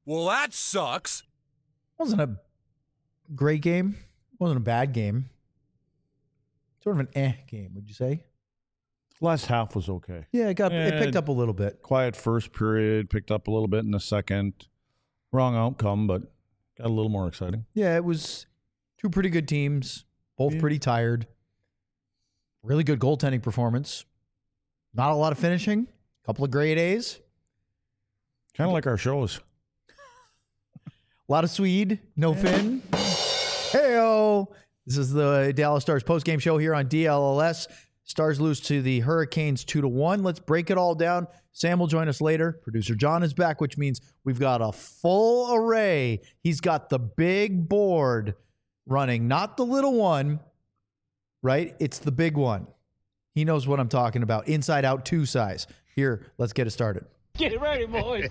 Well, that sucks. Wasn't a great game. Wasn't a bad game. Sort of an game, would you say? Last half was okay. Yeah, it picked up a little bit. Quiet first period, picked up a little bit in the second. Wrong outcome, but got a little more exciting. Yeah, it was two pretty good teams, both pretty tired. Really good goaltending performance. Not a lot of finishing. A couple of grade A's. Kind of like our shows. A lot of Swede, no Finn. Heyo! This is the Dallas Stars postgame show here on DLLS. Stars lose to the Hurricanes 2-1. Let's break it all down. Sam will join us later. Producer John is back, which means we've got a full array. He's got the big board running, not the little one, right? It's the big one. He knows what I'm talking about. Inside Out 2 size. Here, let's get it started. Get ready, boys.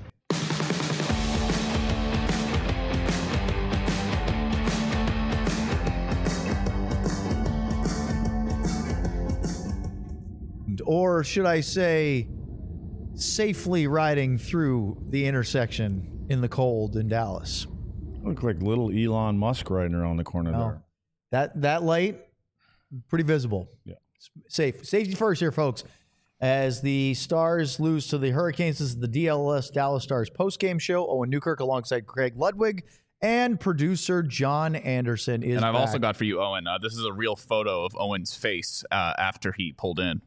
Or should I say, safely riding through the intersection in the cold in Dallas. Look like little Elon Musk riding around the corner there. That light, pretty visible. Yeah. Safety first here, folks. As the Stars lose to the Hurricanes, this is the DLS Dallas Stars postgame show. Owen Newkirk alongside Craig Ludwig and producer John Anderson is And I've back. also got for you, Owen, this is a real photo of Owen's face after he pulled in.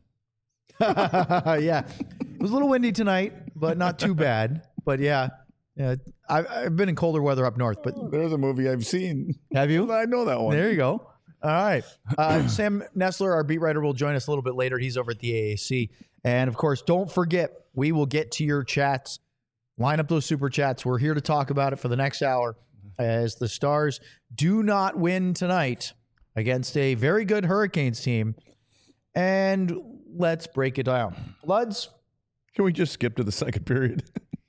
Yeah. It was a little windy tonight, but not too bad. But yeah. I've been in colder weather up north, but There's a movie I've seen. have you? I know that one. There you go. All right. Sam Nestler, our beat writer, will join us a little bit later. He's over at the AAC. And of course, don't forget, we will get to your chats. Line up those super chats. We're here to talk about it for the next hour as the Stars do not win tonight against a very good Hurricanes team. And let's break it down. Luds? Can we just skip to the second period?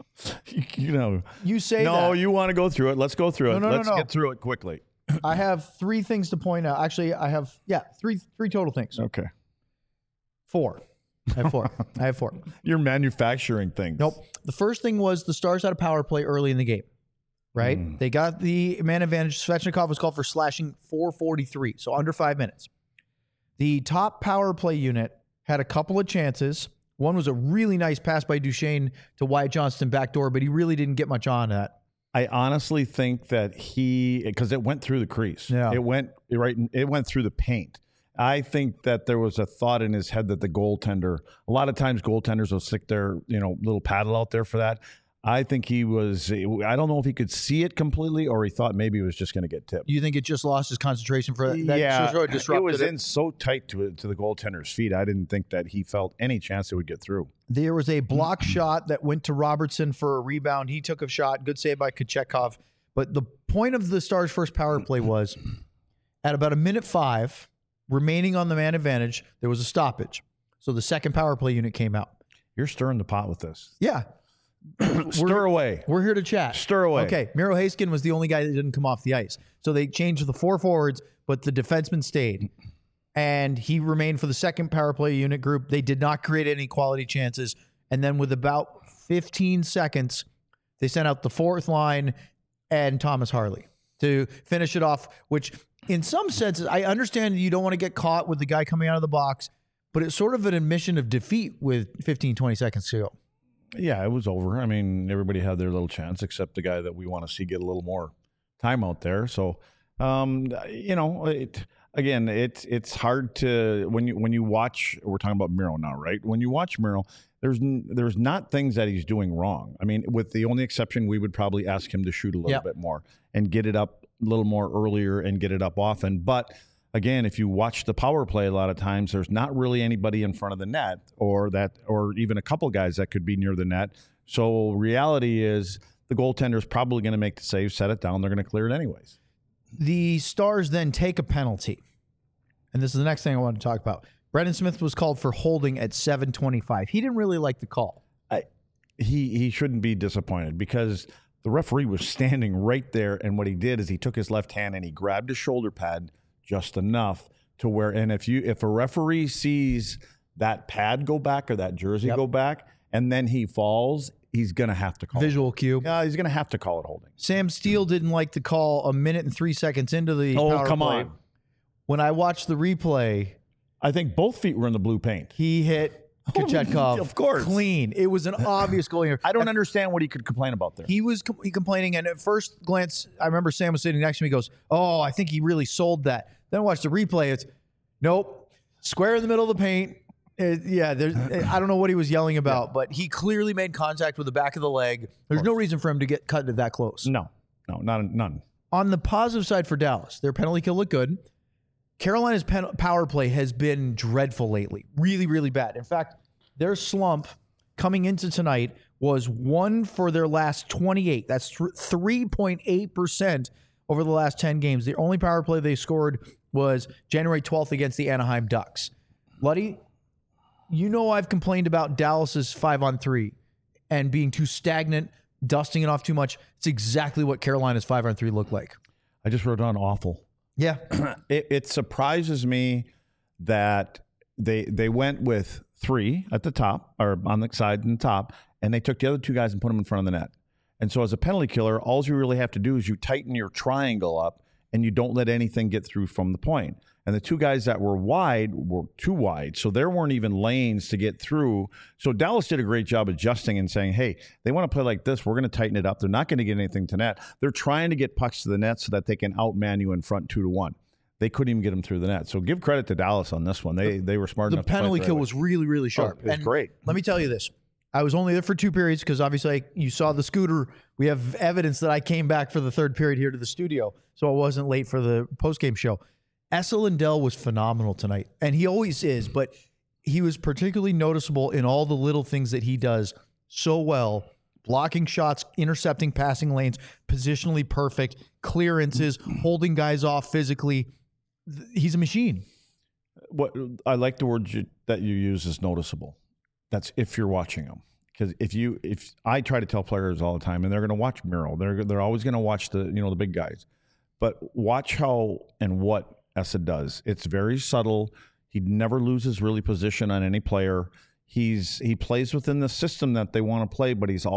You say that. No, you want to go through it. Let's go through it. Let's get through it quickly. I have three things to point out. Actually, I have, three total things. Okay. Four. I have four. You're manufacturing things. Nope. The first thing was the Stars had a power play early in the game, right? They got the man advantage. Svechnikov was called for slashing .443, so under 5 minutes. The top power play unit had a couple of chances. One was a really nice pass by Duchesne to Wyatt Johnston backdoor, but he really didn't get much on that. I honestly think that because it went through the crease. Yeah. It went through the paint. I think that there was a thought in his head that the goaltender, a lot of times goaltenders will stick their, little paddle out there for that. I think I don't know if he could see it completely or he thought maybe he was just going to get tipped. Do you think it just lost his concentration for that? Yeah, Sort of disrupted it was in so tight to the goaltender's feet. I didn't think that he felt any chance it would get through. There was a block shot that went to Robertson for a rebound. He took a shot. Good save by Kochetkov. But the point of the Stars' first power play was at about 1:05, remaining on the man advantage, there was a stoppage. So the second power play unit came out. You're stirring the pot with this. Yeah. Stir away. We're here to chat. Stir away. Okay. Miro Haskin was the only guy that didn't come off the ice. So they changed the 4 forwards, but the defenseman stayed. And he remained for the second power play unit group. They did not create any quality chances. And then with about 15 seconds, they sent out the fourth line and Thomas Harley to finish it off, which in some senses, I understand you don't want to get caught with the guy coming out of the box, but it's sort of an admission of defeat with 15, 20 seconds to go. Yeah, it was over. I mean, everybody had their little chance except the guy that we want to see get a little more time out there. So, it's hard to when you watch. We're talking about Miro now, right? When you watch Miro, there's not things that he's doing wrong. I mean, with the only exception, we would probably ask him to shoot a little bit more and get it up a little more earlier and get it up often. But again, if you watch the power play, a lot of times there's not really anybody in front of the net or even a couple guys that could be near the net. So reality is the goaltender's probably going to make the save, set it down. They're going to clear it anyways. The Stars then take a penalty. And this is the next thing I want to talk about. Brendan Smith was called for holding at 7:25. He didn't really like the call. He shouldn't be disappointed because the referee was standing right there. And what he did is he took his left hand and he grabbed his shoulder pad just enough to where, and if a referee sees that pad go back or that jersey go back, and then he falls, he's going to have to call Visual cue. Yeah, he's going to have to call it holding. Sam Steele didn't like the call a minute and 3 seconds into the power come play. on. When I watched the replay, I think both feet were in the blue paint. he hit Kochetkov Of course. clean. It was an obvious goal here. I don't understand what he could complain about there. He was complaining, and at first glance, I remember Sam was sitting next to me. He goes, "Oh, I think he really sold that." Then I watched the replay. It's nope, square in the middle of the paint. I don't know what he was yelling about, but he clearly made contact with the back of the leg. There's no reason for him to get cut that close. No, none. On the positive side for Dallas, their penalty kill looked good. Carolina's power play has been dreadful lately. Really, really bad. In fact, their slump coming into tonight was 1 for their last 28. That's 3.8% over the last 10 games. The only power play they scored was January 12th against the Anaheim Ducks. Luddy, you know I've complained about Dallas's 5-on-3 and being too stagnant, dusting it off too much. It's exactly what Carolina's 5-on-3 looked like. I just wrote down awful. Yeah. It surprises me that they went with 3 at the top, or on the side and top, and they took the other 2 guys and put them in front of the net. And so as a penalty killer, all you really have to do is you tighten your triangle up and you don't let anything get through from the point. And the 2 guys that were wide were too wide, so there weren't even lanes to get through. So Dallas did a great job adjusting and saying, hey, they want to play like this. We're going to tighten it up. They're not going to get anything to net. They're trying to get pucks to the net so that they can outman you in front 2-1. They couldn't even get them through the net. So give credit to Dallas on this one. They were smart enough to play The penalty kill right was really, really sharp. It was great. Let me tell you this. I was only there for 2 periods because obviously you saw the scooter. We have evidence that I came back for the 3rd period here to the studio, so I wasn't late for the postgame show. Esa Lindell was phenomenal tonight, and he always is, but he was particularly noticeable in all the little things that he does so well. Blocking shots, intercepting passing lanes, positionally perfect, clearances, holding guys off physically. He's a machine. What I like the word that you use is noticeable. That's if you're watching him. Because if I try to tell players all the time, and they're going to watch Miro, they're always going to watch the big guys, but watch how and what Esa does. It's very subtle. He never loses really position on any player. He plays within the system that they want to play, but he's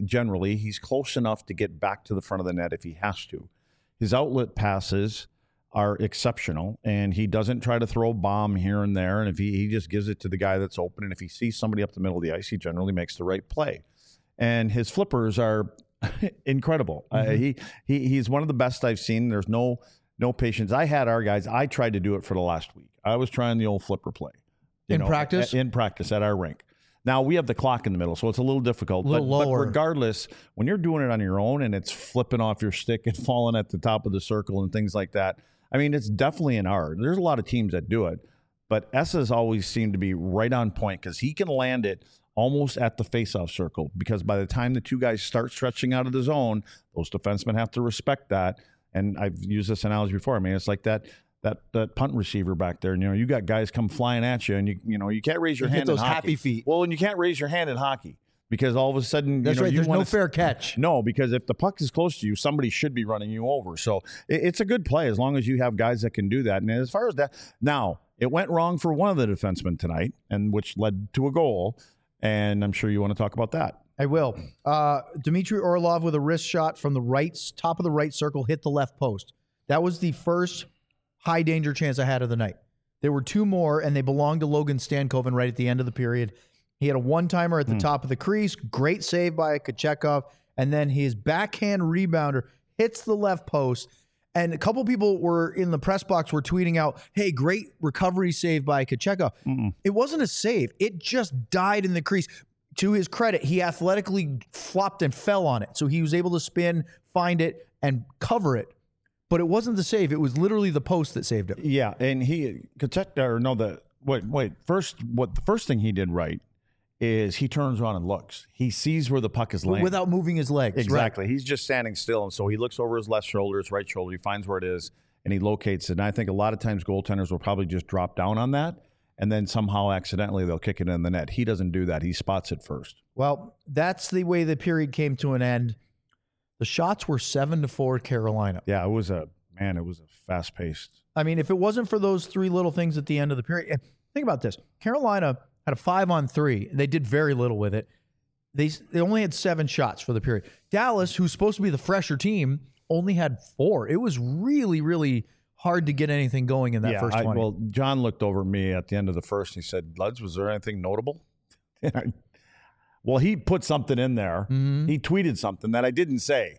close enough to get back to the front of the net if he has to. His outlet passes are exceptional, and he doesn't try to throw a bomb here and there. And if he just gives it to the guy that's open, and if he sees somebody up the middle of the ice, he generally makes the right play. And his flippers are incredible. He's one of the best I've seen. There's no patience. I had our guys. I tried to do it for the last week. I was trying the old flipper play. Practice? In practice at our rink. Now, we have the clock in the middle, so it's a little difficult. But regardless, when you're doing it on your own and it's flipping off your stick and falling at the top of the circle and things like that, I mean, it's definitely an art. There's a lot of teams that do it. But Esa's always seemed to be right on point because he can land it almost at the faceoff circle, because by the time the 2 guys start stretching out of the zone, those defensemen have to respect that. And I've used this analogy before. I mean, it's like that punt receiver back there. And, you got guys come flying at you, and you can't raise your hand in hockey. Happy feet. Well, and you can't raise your hand in hockey because all of a sudden, that's right. There's no fair catch. No, because if the puck is close to you, somebody should be running you over. So it's a good play as long as you have guys that can do that. And as far as that, now it went wrong for one of the defensemen tonight, and which led to a goal. And I'm sure you want to talk about that. I will. Dmitry Orlov with a wrist shot from the top of the right circle hit the left post. That was the first high danger chance I had of the night. There were 2 more, and they belonged to Logan Stankoven right at the end of the period. He had a one-timer at the top of the crease. Great save by Kochetkov. And then his backhand rebounder hits the left post. And a couple people were in the press box were tweeting out, hey, great recovery save by Kochetkov. It wasn't a save. It just died in the crease. To his credit, he athletically flopped and fell on it. So he was able to spin, find it, and cover it. But it wasn't the save. It was literally the post that saved him. Yeah, and the first thing he did right is he turns around and looks. He sees where the puck is landing. Without moving his legs. Exactly. Right. He's just standing still, and so he looks over his left shoulder, his right shoulder. He finds where it is, and he locates it. And I think a lot of times goaltenders will probably just drop down on that, and then somehow accidentally they'll kick it in the net. He doesn't do that. He spots it first. Well, that's the way the period came to an end. The shots were 7-4 Carolina. Yeah, it was a fast-paced. I mean, if it wasn't for those 3 little things at the end of the period, think about this. Carolina had a 5-on-3. They did very little with it. They only had 7 shots for the period. Dallas, who's supposed to be the fresher team, only had 4. It was really, really hard to get anything going in that first 20. Well, John looked over at me at the end of the first and he said, Luds, was there anything notable? Well, he put something in there. Mm-hmm. He tweeted something that I didn't say.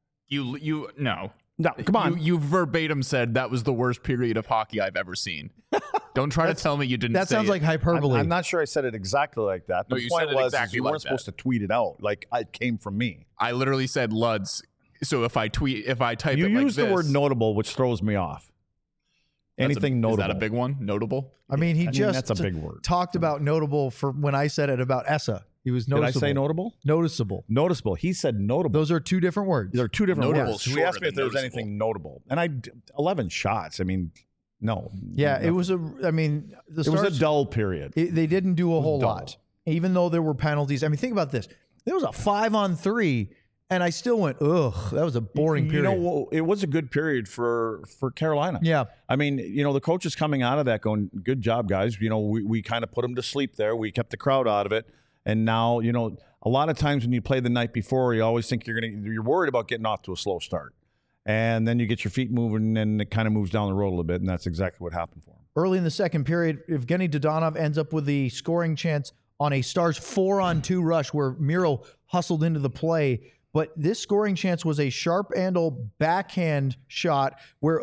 No, come on. You verbatim said that was the worst period of hockey I've ever seen. Don't try to tell me you didn't. That say sounds like hyperbole. I'm not sure I said it exactly like that. No, The you point said it was exactly you like weren't supposed to tweet it out. Like it came from me. I literally said Luds. So if I type You it like use the this, word notable, which throws me off. Anything notable. Is that a big one? Notable? I mean, he just that's a big word. talked about notable for when I said it about Essa. He was noticeable. Did I say notable? Noticeable. Noticeable. He said notable. Those are 2 different words. There are 2 different Notable words. is He asked me shorter if there was than anything notable. And 11 shots. I mean, no. Yeah, nothing. it was the It Stars, was a dull period. they didn't do a whole dull. lot, even though there were penalties. I mean, think about this. There was a 5-on-3, and I still went, ugh, that was a boring period. You know, it was a good period for Carolina. Yeah. I mean, the coach is coming out of that going, good job, guys. We kind of put them to sleep there. We kept the crowd out of it. And now, a lot of times when you play the night before, you always think you're worried about getting off to a slow start. And then you get your feet moving and it kind of moves down the road a little bit. And that's exactly what happened for him. Early in the second period, Evgeny Dodonov ends up with the scoring chance on a Stars 4-on-2 rush where Miro hustled into the play. But this scoring chance was a sharp-angle backhand shot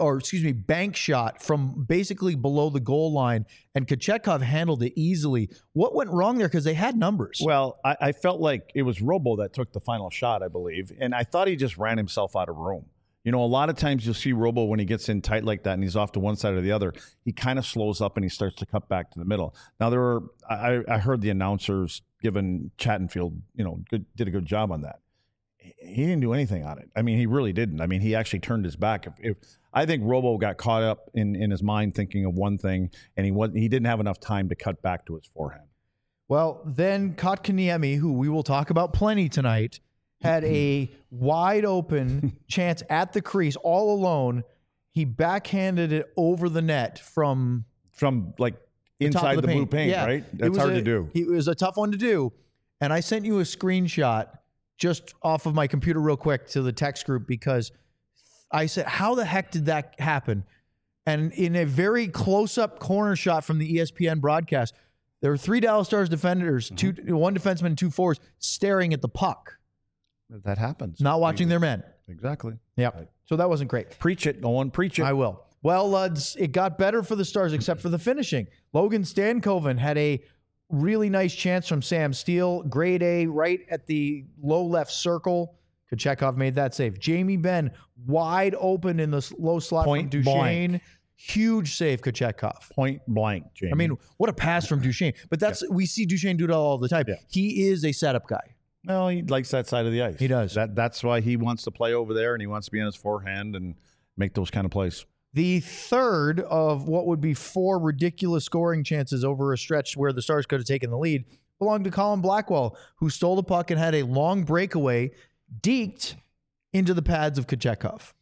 bank shot from basically below the goal line, and Kochetkov handled it easily. What went wrong there? Because they had numbers. Well, I felt like it was Robo that took the final shot, I believe, and I thought he just ran himself out of room. A lot of times you'll see Robo when he gets in tight like that and he's off to one side or the other, he kind of slows up and he starts to cut back to the middle. Now, I heard the announcers giving Chattenfield, did a good job on that. He didn't do anything on it. I mean, he really didn't. I mean, he actually turned his back. I think Robo got caught up in his mind thinking of one thing, and he didn't have enough time to cut back to his forehand. Well, then Kotkaniemi, who we will talk about plenty tonight, had a wide open chance at the crease all alone. He backhanded it over the net from like inside the blue paint, yeah. right? That's hard to do. It was a tough one to do. And I sent you a screenshot just off of my computer real quick to the text group because I said, how the heck did that happen? And in a very close-up corner shot from the ESPN broadcast, there were 3 Dallas Stars defenders, 1 defenseman and 2 forwards staring at the puck. That happens. Not watching their men. Exactly. Yeah. Right. So that wasn't great. Preach it, Nolan. Preach it. I will. Well, Luds, it got better for the Stars except for the finishing. Logan Stankoven had a really nice chance from Sam Steele. Grade A right at the low left circle. Kochetkov made that save. Jamie Benn wide open in the low slot Point from Duchesne. blank. Huge save, Kochetkov. Point blank, Jamie. I mean, what a pass from Duchesne. But we see Duchesne do that all the time. Yeah. He is a setup guy. well, he likes that side of the ice. He does. That's why he wants to play over there, and he wants to be on his forehand and make those kind of plays. The third of what would be 4 ridiculous scoring chances over a stretch where the Stars could have taken the lead belonged to Colin Blackwell, who stole the puck and had a long breakaway, deked into the pads of Kochetkov.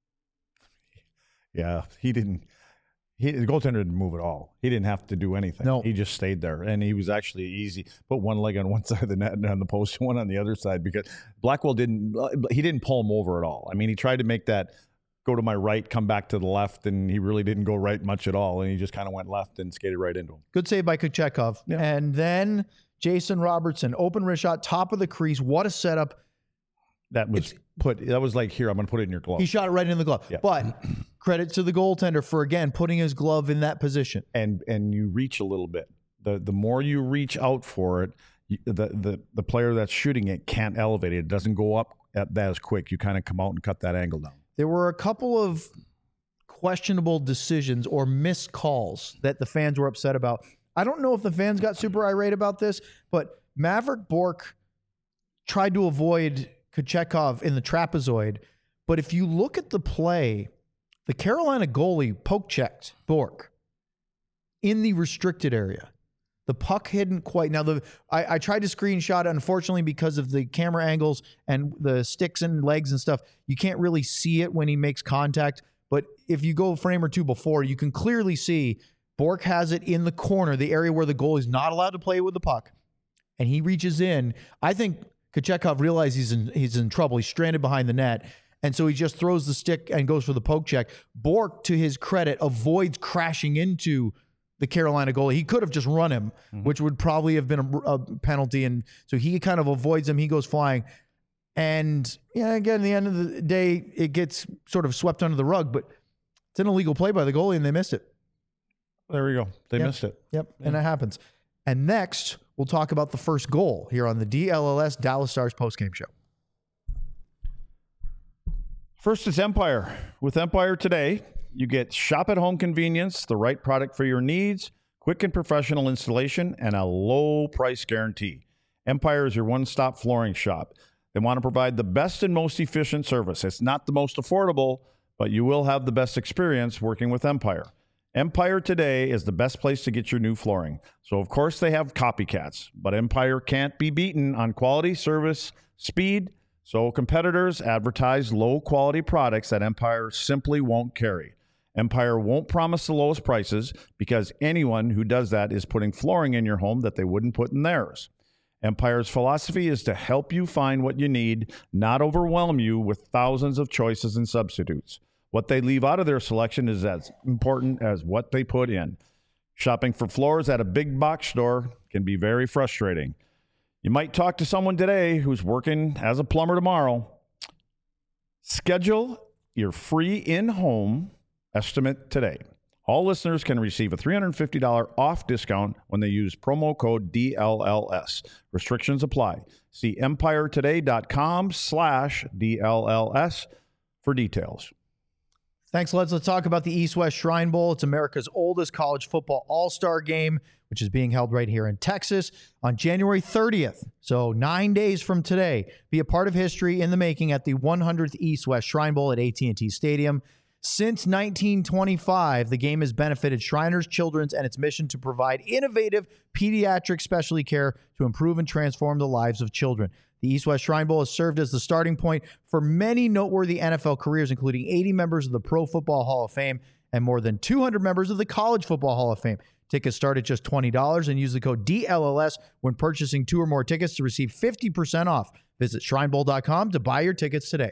Yeah, the goaltender didn't move at all. He didn't have to do anything. No. He just stayed there, and he was actually easy. Put one leg on one side of the net and on the post, one on the other side, because Blackwell didn't pull him over at all. I mean, he tried to make that go to my right, come back to the left, and he really didn't go right much at all, and he just kind of went left and skated right into him. Good save by Kochetkov. Yeah. And then Jason Robertson, open wrist shot, top of the crease. What a setup. That was like, here, I'm going to put it in your glove. He shot it right in the glove. Yeah. But credit to the goaltender for, again, putting his glove in that position. And you reach a little bit. The more you reach out for it, the player that's shooting it can't elevate it. It doesn't go up that as quick. You kind of come out and cut that angle down. There were a couple of questionable decisions or missed calls that the fans were upset about. I don't know if the fans got super irate about this, but Maverick Bourque tried to avoid Kochetkov in the trapezoid. But if you look at the play, the Carolina goalie poke-checked Bourque in the restricted area. The puck hadn't quite. Now, I tried to screenshot it. Unfortunately, because of the camera angles and the sticks and legs and stuff, you can't really see it when he makes contact. But if you go a frame or two before, you can clearly see Bourque has it in the corner, the area where the goalie is not allowed to play with the puck. and he reaches in. I think Kochetkov realizes he's in trouble. He's stranded behind the net. And so he just throws the stick and goes for the poke check. Bourque, to his credit, avoids crashing into the Carolina goalie. He could have just run him, which would probably have been a penalty. And so he kind of avoids him. He goes flying. And yeah, again, at the end of the day, it gets sort of swept under the rug, but it's an illegal play by the goalie and they missed it. There we go. They missed it. Yep. And that happens. And next, we'll talk about the first goal here on the DLLS Dallas Stars postgame show. First is Empire. With Empire today, you get shop-at-home convenience, the right product for your needs, quick and professional installation, and a low price guarantee. Empire is your one-stop flooring shop. They want to provide the best and most efficient service. It's not the most affordable, but you will have the best experience working with Empire. Empire today is the best place to get your new flooring. So, of course, they have copycats, but Empire can't be beaten on quality, service, speed. So competitors advertise low-quality products that Empire simply won't carry. Empire won't promise the lowest prices because anyone who does that is putting flooring in your home that they wouldn't put in theirs. Empire's philosophy is to help you find what you need, not overwhelm you with thousands of choices and substitutes. What they leave out of their selection is as important as what they put in. Shopping for floors at a big box store can be very frustrating. You might talk to someone today who's working as a plumber tomorrow. Schedule your free in-home estimate today. All listeners can receive a $350 off discount when they use promo code DLLS. Restrictions apply. See empiretoday.com/DLLS for details. Thanks, Let's talk about the East-West Shrine Bowl. It's America's oldest college football all-star game, which is being held right here in Texas on January 30th. So 9 days from today. Be a part of history in the making at the 100th East-West Shrine Bowl at AT&T Stadium. Since 1925, the game has benefited Shriners Children's and its mission to provide innovative pediatric specialty care to improve and transform the lives of children. The East-West Shrine Bowl has served as the starting point for many noteworthy NFL careers, including 80 members of the Pro Football Hall of Fame and more than 200 members of the College Football Hall of Fame. Tickets start at just $20 and use the code DLLS when purchasing 2 or more tickets to receive 50% off. Visit shrinebowl.com to buy your tickets today.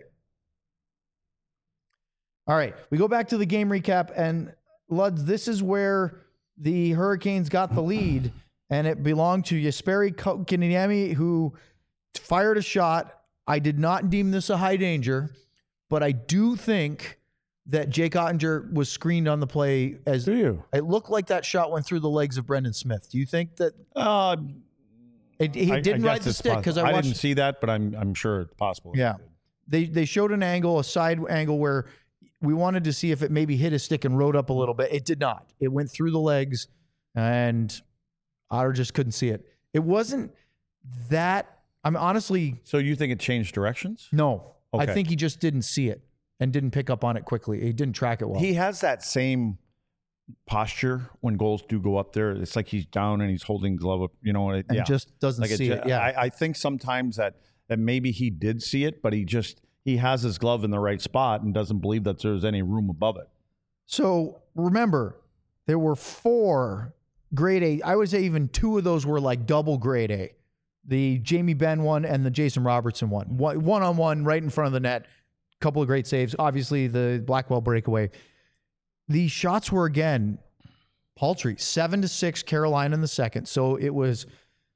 All right, we go back to the game recap, and Luds, this is where the Hurricanes got the lead, and it belonged to Jesperi Kotkaniemi, who fired a shot. I did not deem this a high danger, but I do think that Jake Ottinger was screened on the play. Do you? It looked like that shot went through the legs of Brendan Smith. Do you think that he didn't ride the stick? Because I didn't see that, but I'm sure it's possible. Yeah, they showed an angle, a side angle where we wanted to see if it maybe hit his stick and rode up a little bit. It did not. It went through the legs, and Otter just couldn't see it. It wasn't that. I'm honestly. So you think it changed directions? No, okay. I think he just didn't see it and didn't pick up on it quickly. He didn't track it well. He has that same posture when goals do go up there. It's like he's down and he's holding glove up. You know, and just doesn't see it. Yeah, I think sometimes that maybe he did see it, but he has his glove in the right spot and doesn't believe that there's any room above it. So remember, there were 4 grade A. I would say even 2 of those were like double grade A. The Jamie Benn one and the Jason Robertson one. One-on-one right in front of the net. Couple of great saves. Obviously, the Blackwell breakaway. The shots were, again, paltry. 7-6 Carolina in the second. So it was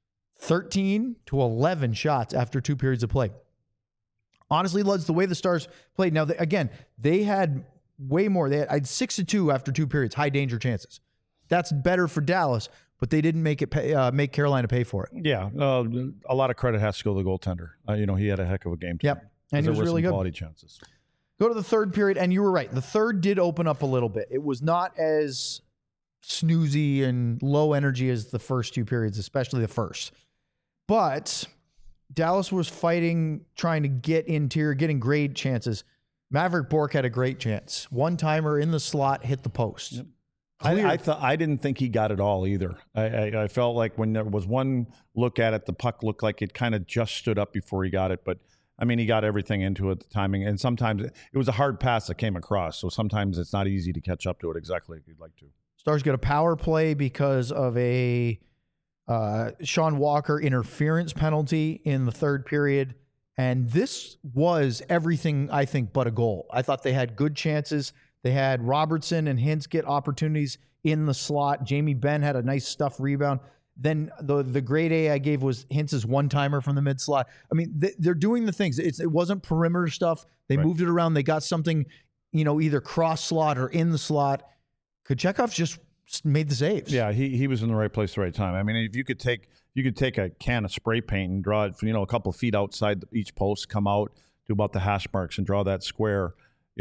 13-11 shots after 2 periods of play. Honestly, Luds, the way the Stars played. Now, they had way more. They had 6-2 after 2 periods, high danger chances. That's better for Dallas, but they didn't make Carolina pay for it. Yeah, a lot of credit has to go to the goaltender. He had a heck of a game. Yep, and he was really good. Quality chances. Go to the third period, and you were right. The third did open up a little bit. It was not as snoozy and low energy as the first 2 periods, especially the first. But Dallas was fighting, trying to get interior, getting great chances. Maverick Bourque had a great chance. One-timer in the slot, hit the post. Yep. I didn't think he got it all either. I felt like when there was one look at it, the puck looked like it kind of just stood up before he got it. But, he got everything into it, the timing. And sometimes it was a hard pass that came across. So sometimes it's not easy to catch up to it exactly like you'd like to. Stars get a power play because of a Sean Walker interference penalty in the third period. And this was everything, I think, but a goal. I thought they had good chances. They had Robertson and Hintz get opportunities in the slot. Jamie Benn had a nice stuff rebound. Then the grade A I gave was Hintz's one-timer from the mid-slot. I mean, they're doing the things. It wasn't perimeter stuff. They moved it around. They got something, either cross-slot or in the slot. Kochetkov just made the saves. Yeah, he was in the right place at the right time. I mean, if you could take a can of spray paint and draw it, a couple of feet outside each post, come out to about the hash marks and draw that square.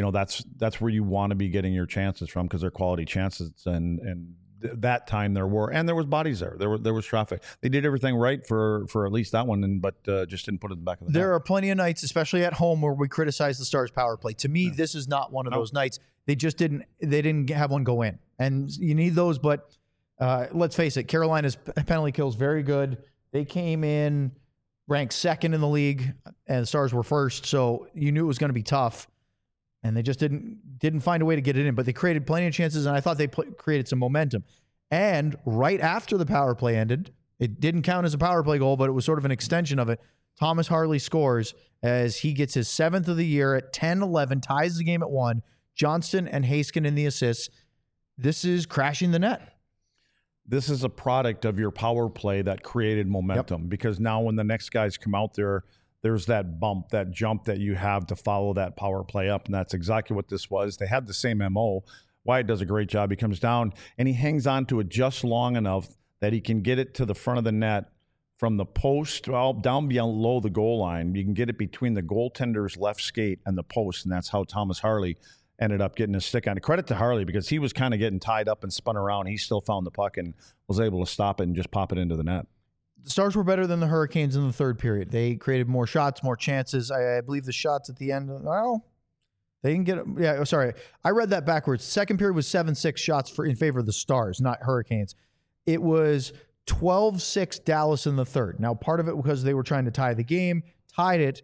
That's where you want to be getting your chances from, because they're quality chances. And that time there was bodies there. There was traffic. They did everything right for at least that one, but just didn't put it in the back of the net. There are plenty of nights, especially at home, where we criticize the Stars' power play. To me, this is not one of those nights. They just didn't have one go in, and you need those. But let's face it, Carolina's penalty kill is very good. They came in ranked second in the league, and the Stars were first, so you knew it was going to be tough. And they just didn't find a way to get it in. But they created plenty of chances, and I thought they created some momentum. And right after the power play ended, it didn't count as a power play goal, but it was sort of an extension of it. Thomas Harley scores as he gets his 7th of the year at 10-11, ties the game at 1. Johnston and Haskin in the assists. This is crashing the net. This is a product of your power play that created momentum, because now when the next guys come out there, there's that bump, that jump that you have to follow that power play up, and that's exactly what this was. They had the same MO. Wyatt does a great job. He comes down, and he hangs on to it just long enough that he can get it to the front of the net from the post, down below the goal line. You can get it between the goaltender's left skate and the post, and that's how Thomas Harley ended up getting his stick on it. Credit to Harley, because he was kind of getting tied up and spun around. He still found the puck and was able to stop it and just pop it into the net. The Stars were better than the Hurricanes in the third period. They created more shots, more chances. I believe the shots at the end, they didn't get it. Yeah, sorry. I read that backwards. Second period was 7-6 shots in favor of the Stars, not Hurricanes. It was 12-6 Dallas in the third. Now, part of it because they were trying to tie the game, tied it,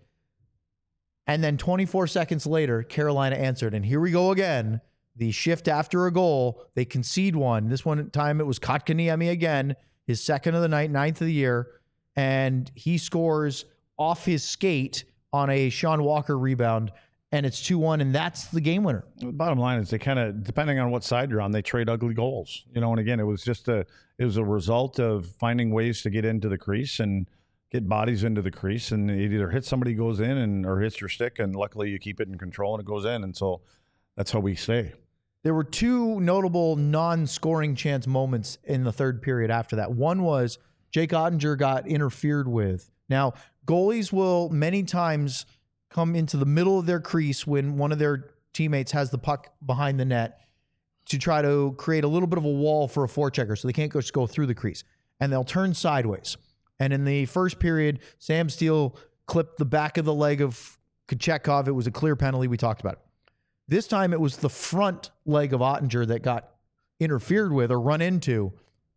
and then 24 seconds later, Carolina answered. And here we go again. The shift after a goal, they concede one. This one time it was Kotkaniemi again. His 2nd of the night, 9th of the year, and he scores off his skate on a Sean Walker rebound, and it's 2-1, and that's the game winner. The bottom line is they kind of, depending on what side you're on, they trade ugly goals. And again, it was a result of finding ways to get into the crease and get bodies into the crease, and it either hits somebody, goes in, or hits your stick, and luckily you keep it in control and it goes in, and so that's how we stay. There were 2 notable non-scoring chance moments in the third period after that. One was Jake Ottinger got interfered with. Now, goalies will many times come into the middle of their crease when one of their teammates has the puck behind the net to try to create a little bit of a wall for a forechecker so they can't just go through the crease. And they'll turn sideways. And in the first period, Sam Steele clipped the back of the leg of Kochetkov. It was a clear penalty. We talked about it. This time it was the front leg of Ottinger that got interfered with or run into.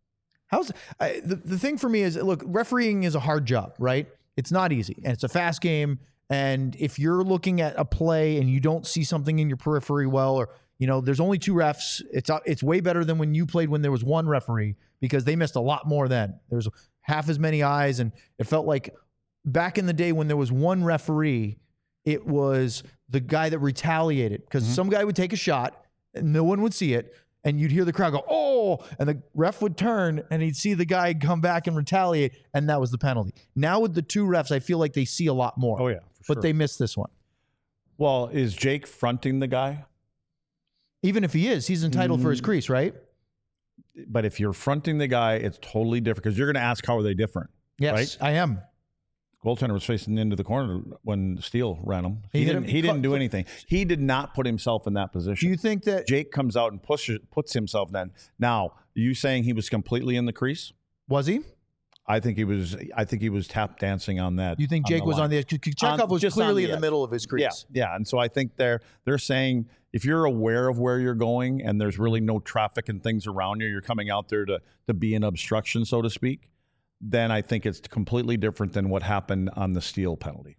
The thing for me is, look, refereeing is a hard job, right? It's not easy, and it's a fast game. And if you're looking at a play and you don't see something in your periphery well, or there's only 2 refs, it's way better than when you played when there was 1 referee, because they missed a lot more then. There's half as many eyes, and it felt like back in the day when there was 1 referee, it was the guy that retaliated, because some guy would take a shot and no one would see it, and you'd hear the crowd go, "Oh," and the ref would turn and he'd see the guy come back and retaliate, and that was the penalty. Now with the 2 refs, I feel like they see a lot more. Oh yeah, but they missed this one. Well, is Jake fronting the guy? Even if he is, he's entitled for his crease, right? But if you're fronting the guy, it's totally different, because you're going to ask, how are they different? Yes, right? I am. Goaltender was facing into the corner when Steele ran him. He didn't do anything. He did not put himself in that position. Do you think that Jake comes out and puts himself then? Now, are you saying he was completely in the crease? Was he? I think he was tap dancing on that. You think Jake was on the edge? Kochetkov was clearly in the middle of his crease. Yeah. And so I think they're saying, if you're aware of where you're going and there's really no traffic and things around you, you're coming out there to be an obstruction, so to speak, then I think it's completely different than what happened on the Steele penalty.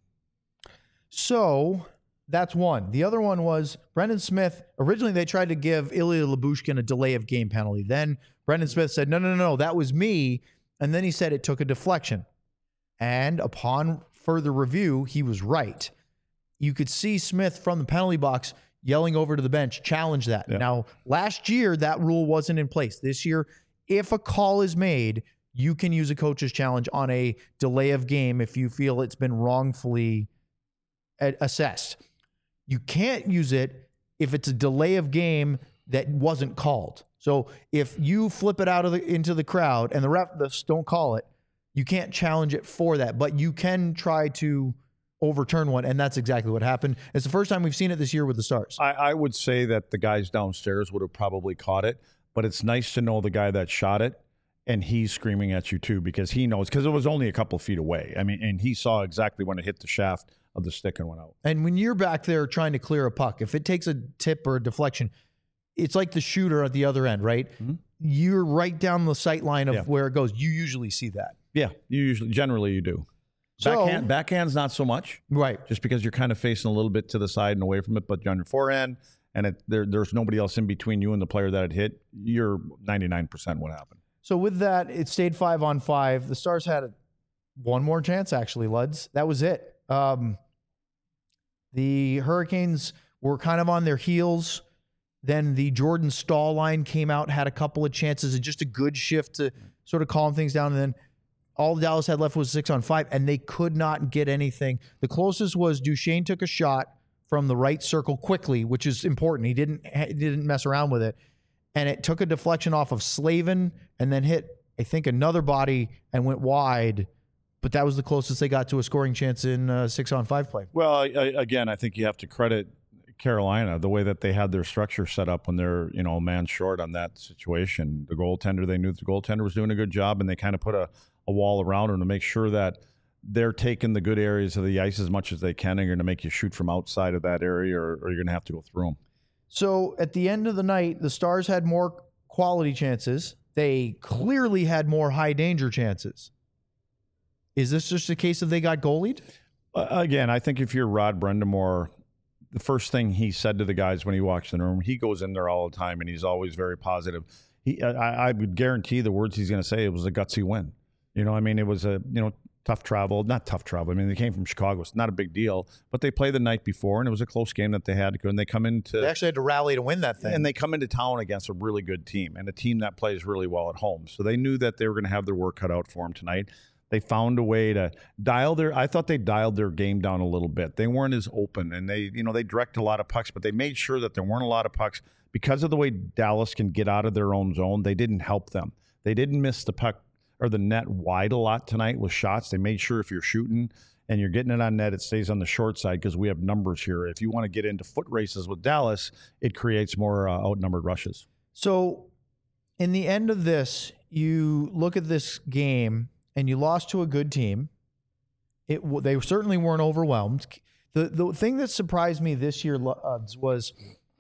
So that's one. The other one was Brendan Smith. Originally, they tried to give Ilya Lyubushkin a delay of game penalty. Then Brendan Smith said, no, that was me. And then he said it took a deflection. And upon further review, he was right. You could see Smith from the penalty box yelling over to the bench, challenge that. Yeah. Now, last year, that rule wasn't in place. This year, if a call is made, you can use a coach's challenge on a delay of game if you feel it's been wrongfully assessed. You can't use it if it's a delay of game that wasn't called. So if you flip it out of into the crowd and the refs don't call it, you can't challenge it for that, but you can try to overturn one, and that's exactly what happened. It's the first time we've seen it this year with the Stars. I would say that the guys downstairs would have probably caught it, but it's nice to know the guy that shot it, and he's screaming at you too, because he knows, because it was only a couple feet away. I mean, and he saw exactly when it hit the shaft of the stick and went out. And when you're back there trying to clear a puck, if it takes a tip or a deflection, it's like the shooter at the other end, right? Mm-hmm. You're right down the sight line of where it goes. You usually see that. Yeah, generally you do. So, backhand's not so much, right? Just because you're kind of facing a little bit to the side and away from it, but on your forehand, and there's nobody else in between you and the player that it hit, you're 99% what happened. So with that, it stayed 5-on-5. The Stars had one more chance, actually, Luds. That was it. The Hurricanes were kind of on their heels. Then the Jordan Staal line came out, had a couple of chances, and just a good shift to sort of calm things down. And then all Dallas had left was 6-on-5, and they could not get anything. The closest was Duchesne took a shot from the right circle quickly, which is important. He didn't mess around with it. And it took a deflection off of Slavin and then hit, I think, another body and went wide. But that was the closest they got to a scoring chance in 6-on-5 play. Well, again, I think you have to credit Carolina, the way that they had their structure set up when they're, a man short on that situation. The goaltender, they knew the goaltender was doing a good job, and they kind of put a wall around him to make sure that they're taking the good areas of the ice as much as they can, and they're going to make you shoot from outside of that area, or you're going to have to go through them. So at the end of the night, the Stars had more quality chances. They clearly had more high danger chances. Is this just a case of they got goalied? Again, I think if you're Rod Brind'Amour, the first thing he said to the guys when he walks in the room, he goes in there all the time, and he's always very positive. I would guarantee the words he's going to say, it was a gutsy win. It was a, tough travel, not tough travel. I mean, they came from Chicago. It's not a big deal, but they played the night before, and it was a close game that they had to go. And they actually had to rally to win that thing. And they come into town against a really good team, and a team that plays really well at home. So they knew that they were going to have their work cut out for them tonight. They found a way to I thought they dialed their game down a little bit. They weren't as open, and they directed a lot of pucks, but they made sure that there weren't a lot of pucks. Because of the way Dallas can get out of their own zone, they didn't help them. They didn't miss the puck or the net wide a lot tonight with shots. They made sure if you're shooting and you're getting it on net, it stays on the short side, because we have numbers here. If you want to get into foot races with Dallas, it creates more outnumbered rushes. So in the end of this, you look at this game, and you lost to a good team. They certainly weren't overwhelmed. The thing that surprised me this year was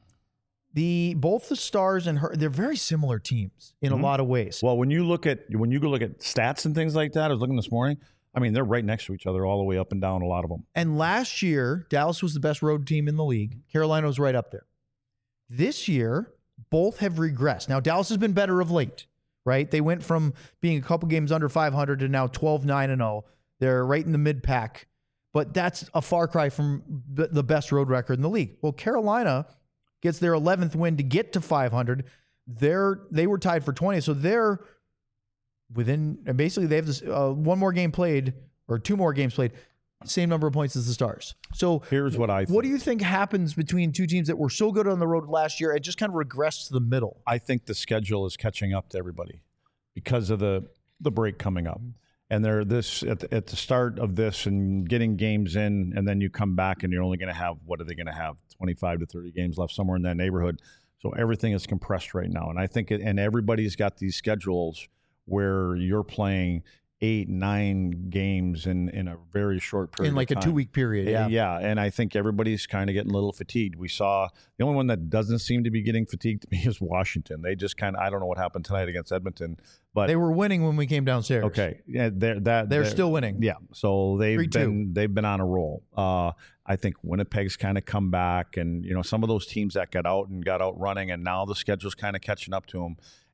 both the Stars and they're very similar teams in a lot of ways. Well, when you go look at stats and things like that, I was looking this morning. I mean, they're right next to each other all the way up and down, a lot of them. And last year, Dallas was the best road team in the league. Carolina was right up there. This year, both have regressed. Now, Dallas has been better of late. Right? They went from being a couple games under 500 to now 12-9-0. They're right in the mid-pack. But that's a far cry from the best road record in the league. Well, Carolina gets their 11th win to get to 500. They were tied for 20th. So they're within, and basically they have this one more game played, or two more games played, same number of points as the Stars. So here's what I think. What do you think happens between two teams that were so good on the road last year and just kind of regressed to the middle? I think the schedule is catching up to everybody because of the break coming up. And they're at the start of this and getting games in, and then you come back and you're only going to have, what are they going to have? 25 to 30 games left, somewhere in that neighborhood. So everything is compressed right now. And I think and everybody's got these schedules where you're playing 8-9 games in a very short period in like of time. A 2-week period. Yeah. And I think everybody's kind of getting a little fatigued. We saw the only one that doesn't seem to be getting fatigued to me is Washington. They just I don't know what happened tonight against Edmonton, but they were winning when we came downstairs. Okay. Yeah, they're still winning. Yeah. So they've 3-2. been on a roll. I think Winnipeg's kind of come back, and some of those teams that got out running, and now the schedule's kind of catching up to them.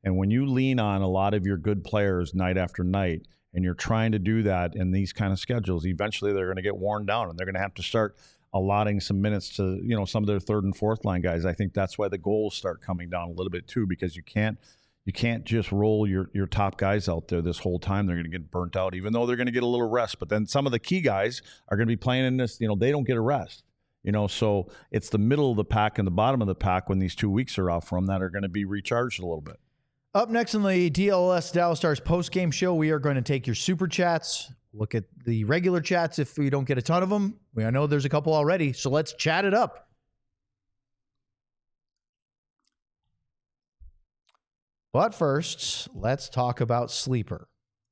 And when you lean on a lot of your good players night after night, and you're trying to do that in these kind of schedules, eventually they're going to get worn down, and they're going to have to start allotting some minutes to, some of their third and fourth line guys. I think that's why the goals start coming down a little bit too, because you can't just roll your top guys out there this whole time. They're going to get burnt out, even though they're going to get a little rest. But then some of the key guys are going to be playing in this, they don't get a rest. So it's the middle of the pack and the bottom of the pack when these 2 weeks are off from that are going to be recharged a little bit. Up next in the DLS Dallas Stars post-game show, we are going to take your super chats, look at the regular chats if we don't get a ton of them. I know there's a couple already, so let's chat it up. But first, let's talk about Sleeper.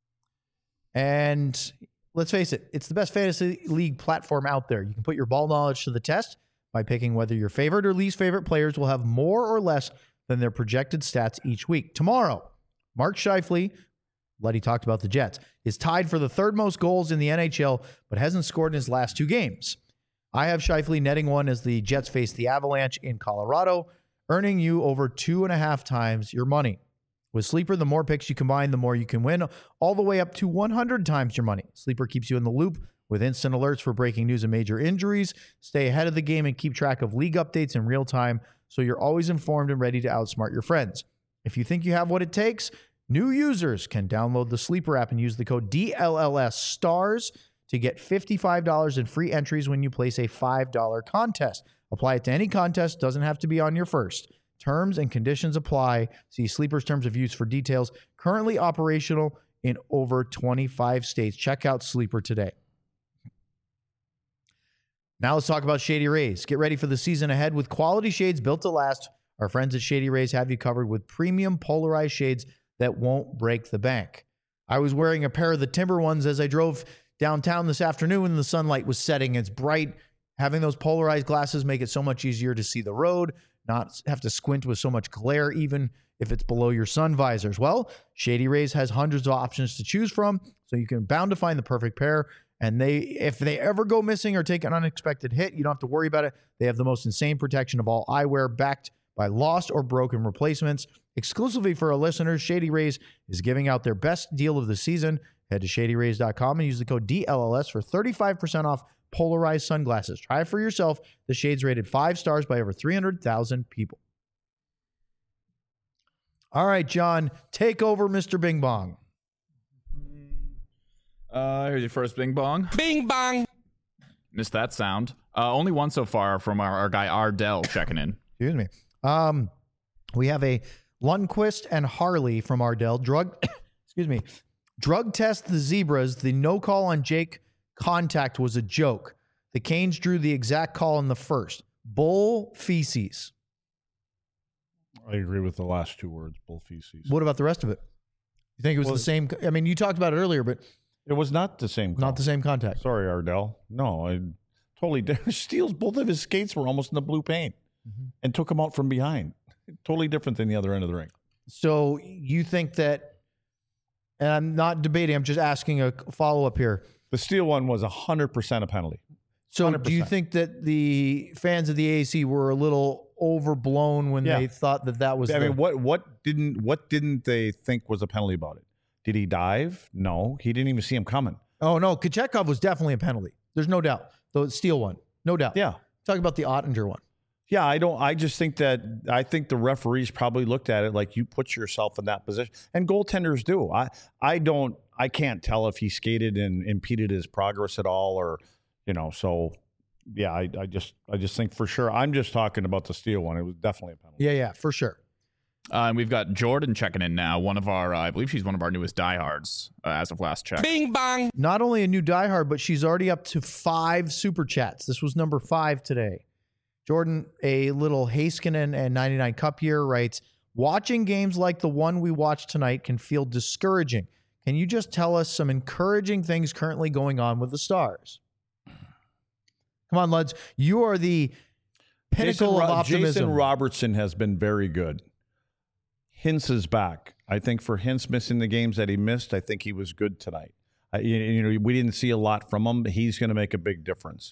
And let's face it, it's the best fantasy league platform out there. You can put your ball knowledge to the test by picking whether your favorite or least favorite players will have more or less than their projected stats each week. Tomorrow, Mark Scheifele, Letty talked about the Jets, is tied for the third most goals in the NHL, but hasn't scored in his last 2 games. I have Scheifele netting one as the Jets face the Avalanche in Colorado, earning you over 2.5 times your money. With Sleeper, the more picks you combine, the more you can win, all the way up to 100 times your money. Sleeper keeps you in the loop with instant alerts for breaking news and major injuries. Stay ahead of the game and keep track of league updates in real time, so you're always informed and ready to outsmart your friends. If you think you have what it takes, new users can download the Sleeper app and use the code DLLSSTARS to get $55 in free entries when you place a $5 contest. Apply it to any contest, doesn't have to be on your first. Terms and conditions apply. See Sleeper's terms of use for details. Currently operational in over 25 states. Check out Sleeper today. Now let's talk about Shady Rays. Get ready for the season ahead with quality shades built to last. Our friends at Shady Rays have you covered with premium polarized shades that won't break the bank. I was wearing a pair of the Timber ones as I drove downtown this afternoon and the sunlight was setting. It's bright. Having those polarized glasses make it so much easier to see the road, not have to squint with so much glare, even if it's below your sun visors. Well, Shady Rays has hundreds of options to choose from, so you can bound to find the perfect pair. And if they ever go missing or take an unexpected hit, you don't have to worry about it. They have the most insane protection of all eyewear, backed by lost or broken replacements. Exclusively for our listeners, Shady Rays is giving out their best deal of the season. Head to shadyrays.com and use the code DLLS for 35% off polarized sunglasses. Try it for yourself. The shade's rated 5 stars by over 300,000 people. All right, John, take over, Mr. Bing Bong. Here's your first bing bong. Bing bong. Missed that sound. Only one so far from our guy Ardell checking in. Excuse me. We have a Lundqvist and Harley from Ardell. Drug test the Zebras. The no call on Jake contact was a joke. The Canes drew the exact call in the first. Bull feces. I agree with the last 2 words, bull feces. What about the rest of it? You think it was the same? I mean, you talked about it earlier, but it was not the same call. Not the same contact. Sorry, Ardell. No, I totally did. Steals, both of his skates were almost in the blue paint and took him out from behind. Totally different than the other end of the ring. So you think that, and I'm not debating, I'm just asking a follow-up here. The Steele one was 100% a penalty. So 100%. do you think that the fans of the AAC were a little overblown when they thought that was? I mean, what didn't they think was a penalty about it? Did he dive? No, he didn't even see him coming. Oh no, Kochetkov was definitely a penalty. There's no doubt. The Steele one, no doubt. Yeah, talking about the Ottinger one. Yeah, I just think that I think the referees probably looked at it like you put yourself in that position, and goaltenders do. I can't tell if he skated and impeded his progress at all, or So, yeah, I just think for sure. I'm just talking about the Steele one. It was definitely a penalty. Yeah, for sure. And we've got Jordan checking in now. One of our, I believe she's one of our newest diehards as of last check. Bing bong. Not only a new diehard, but she's already up to 5 super chats. This was number 5 today. Jordan, a little Heiskanen and 99 Cup year, writes, watching games like the one we watched tonight can feel discouraging. Can you just tell us some encouraging things currently going on with the Stars? Come on, Luds. You are the pinnacle of optimism. Jason Robertson has been very good. Hintz is back. I think for Hintz missing the games that he missed, I think he was good tonight. We didn't see a lot from him, but he's going to make a big difference.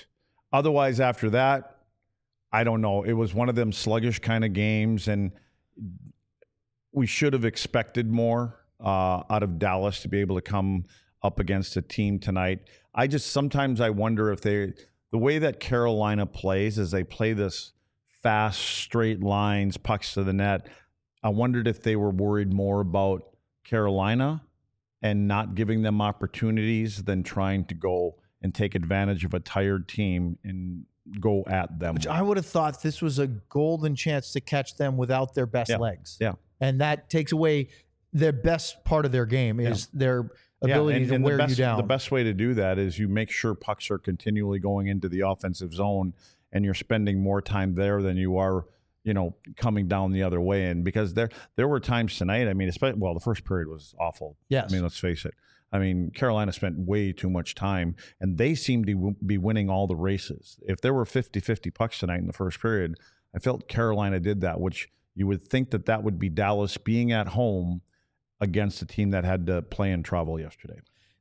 Otherwise, after that, I don't know. It was one of them sluggish kind of games, and we should have expected more out of Dallas to be able to come up against a team tonight. Sometimes I wonder if the way that Carolina plays is they play this fast, straight lines, pucks to the net. I wondered if they were worried more about Carolina and not giving them opportunities than trying to go and take advantage of a tired team and go at them. Which I would have thought this was a golden chance to catch them without their best legs. Yeah. And that takes away their best part of their game is their ability to wear you down. The best way to do that is you make sure pucks are continually going into the offensive zone and you're spending more time there than you are, coming down the other way. And because there were times tonight, I mean, the first period was awful. Yes. I mean, let's face it. I mean, Carolina spent way too much time, and they seemed to be winning all the races. If there were 50-50 pucks tonight in the first period, I felt Carolina did that, which you would think that would be Dallas being at home against a team that had to play in travel yesterday.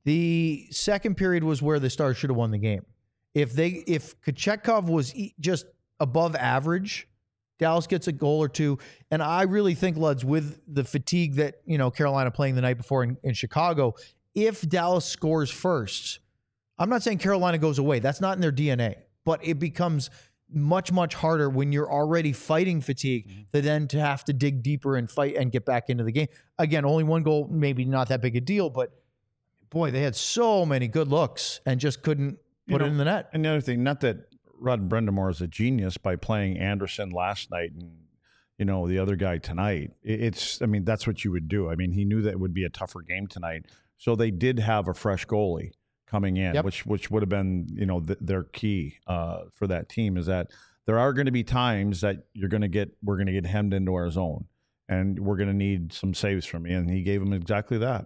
The second period was where the Stars should have won the game. If Kochetkov was just above average, Dallas gets a goal or two. And I really think, Luds, with the fatigue that, Carolina playing the night before in Chicago, if Dallas scores first, I'm not saying Carolina goes away. That's not in their DNA. But it becomes much, much harder when you're already fighting fatigue to have to dig deeper and fight and get back into the game. Again, only one goal, maybe not that big a deal, but boy, they had so many good looks and just couldn't put it in the net. And the other thing, not that Rod Brind'Amour is a genius by playing Anderson last night and, the other guy tonight. That's what you would do. I mean, he knew that it would be a tougher game tonight. So they did have a fresh goalie coming in, which would have been, their key for that team is that there are going to be times that we're going to get hemmed into our zone and we're going to need some saves from you. And he gave them exactly that.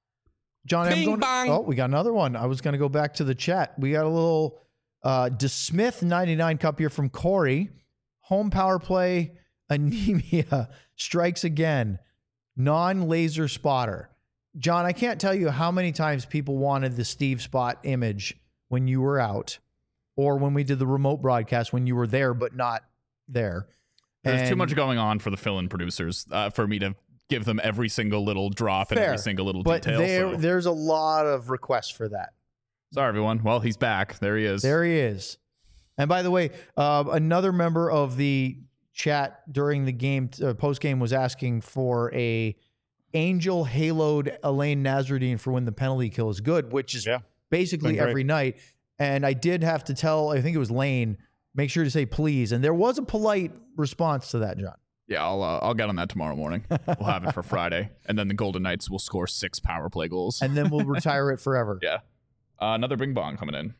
John, we got another one. I was going to go back to the chat. We got a little DeSmith 99 cup here from Corey. Home power play anemia strikes again. Non-laser spotter. John, I can't tell you how many times people wanted the Steve Spot image when you were out or when we did the remote broadcast when you were there but not there. There's too much going on for the fill-in producers for me to give them every single little drop and every single little detail. But there's a lot of requests for that. Sorry, everyone. Well, he's back. There he is. There he is. And by the way, another member of the chat during the game, post-game, was asking for a Angel haloed Elaine Nasruddin for when the penalty kill is good, which is basically every night. And I did have to tell, I think it was Lane, make sure to say please. And there was a polite response to that, John. Yeah, I'll get on that tomorrow morning. We'll have it for Friday. And then the Golden Knights will score 6 power play goals. And then we'll retire it forever. Yeah. Another bing bong coming in.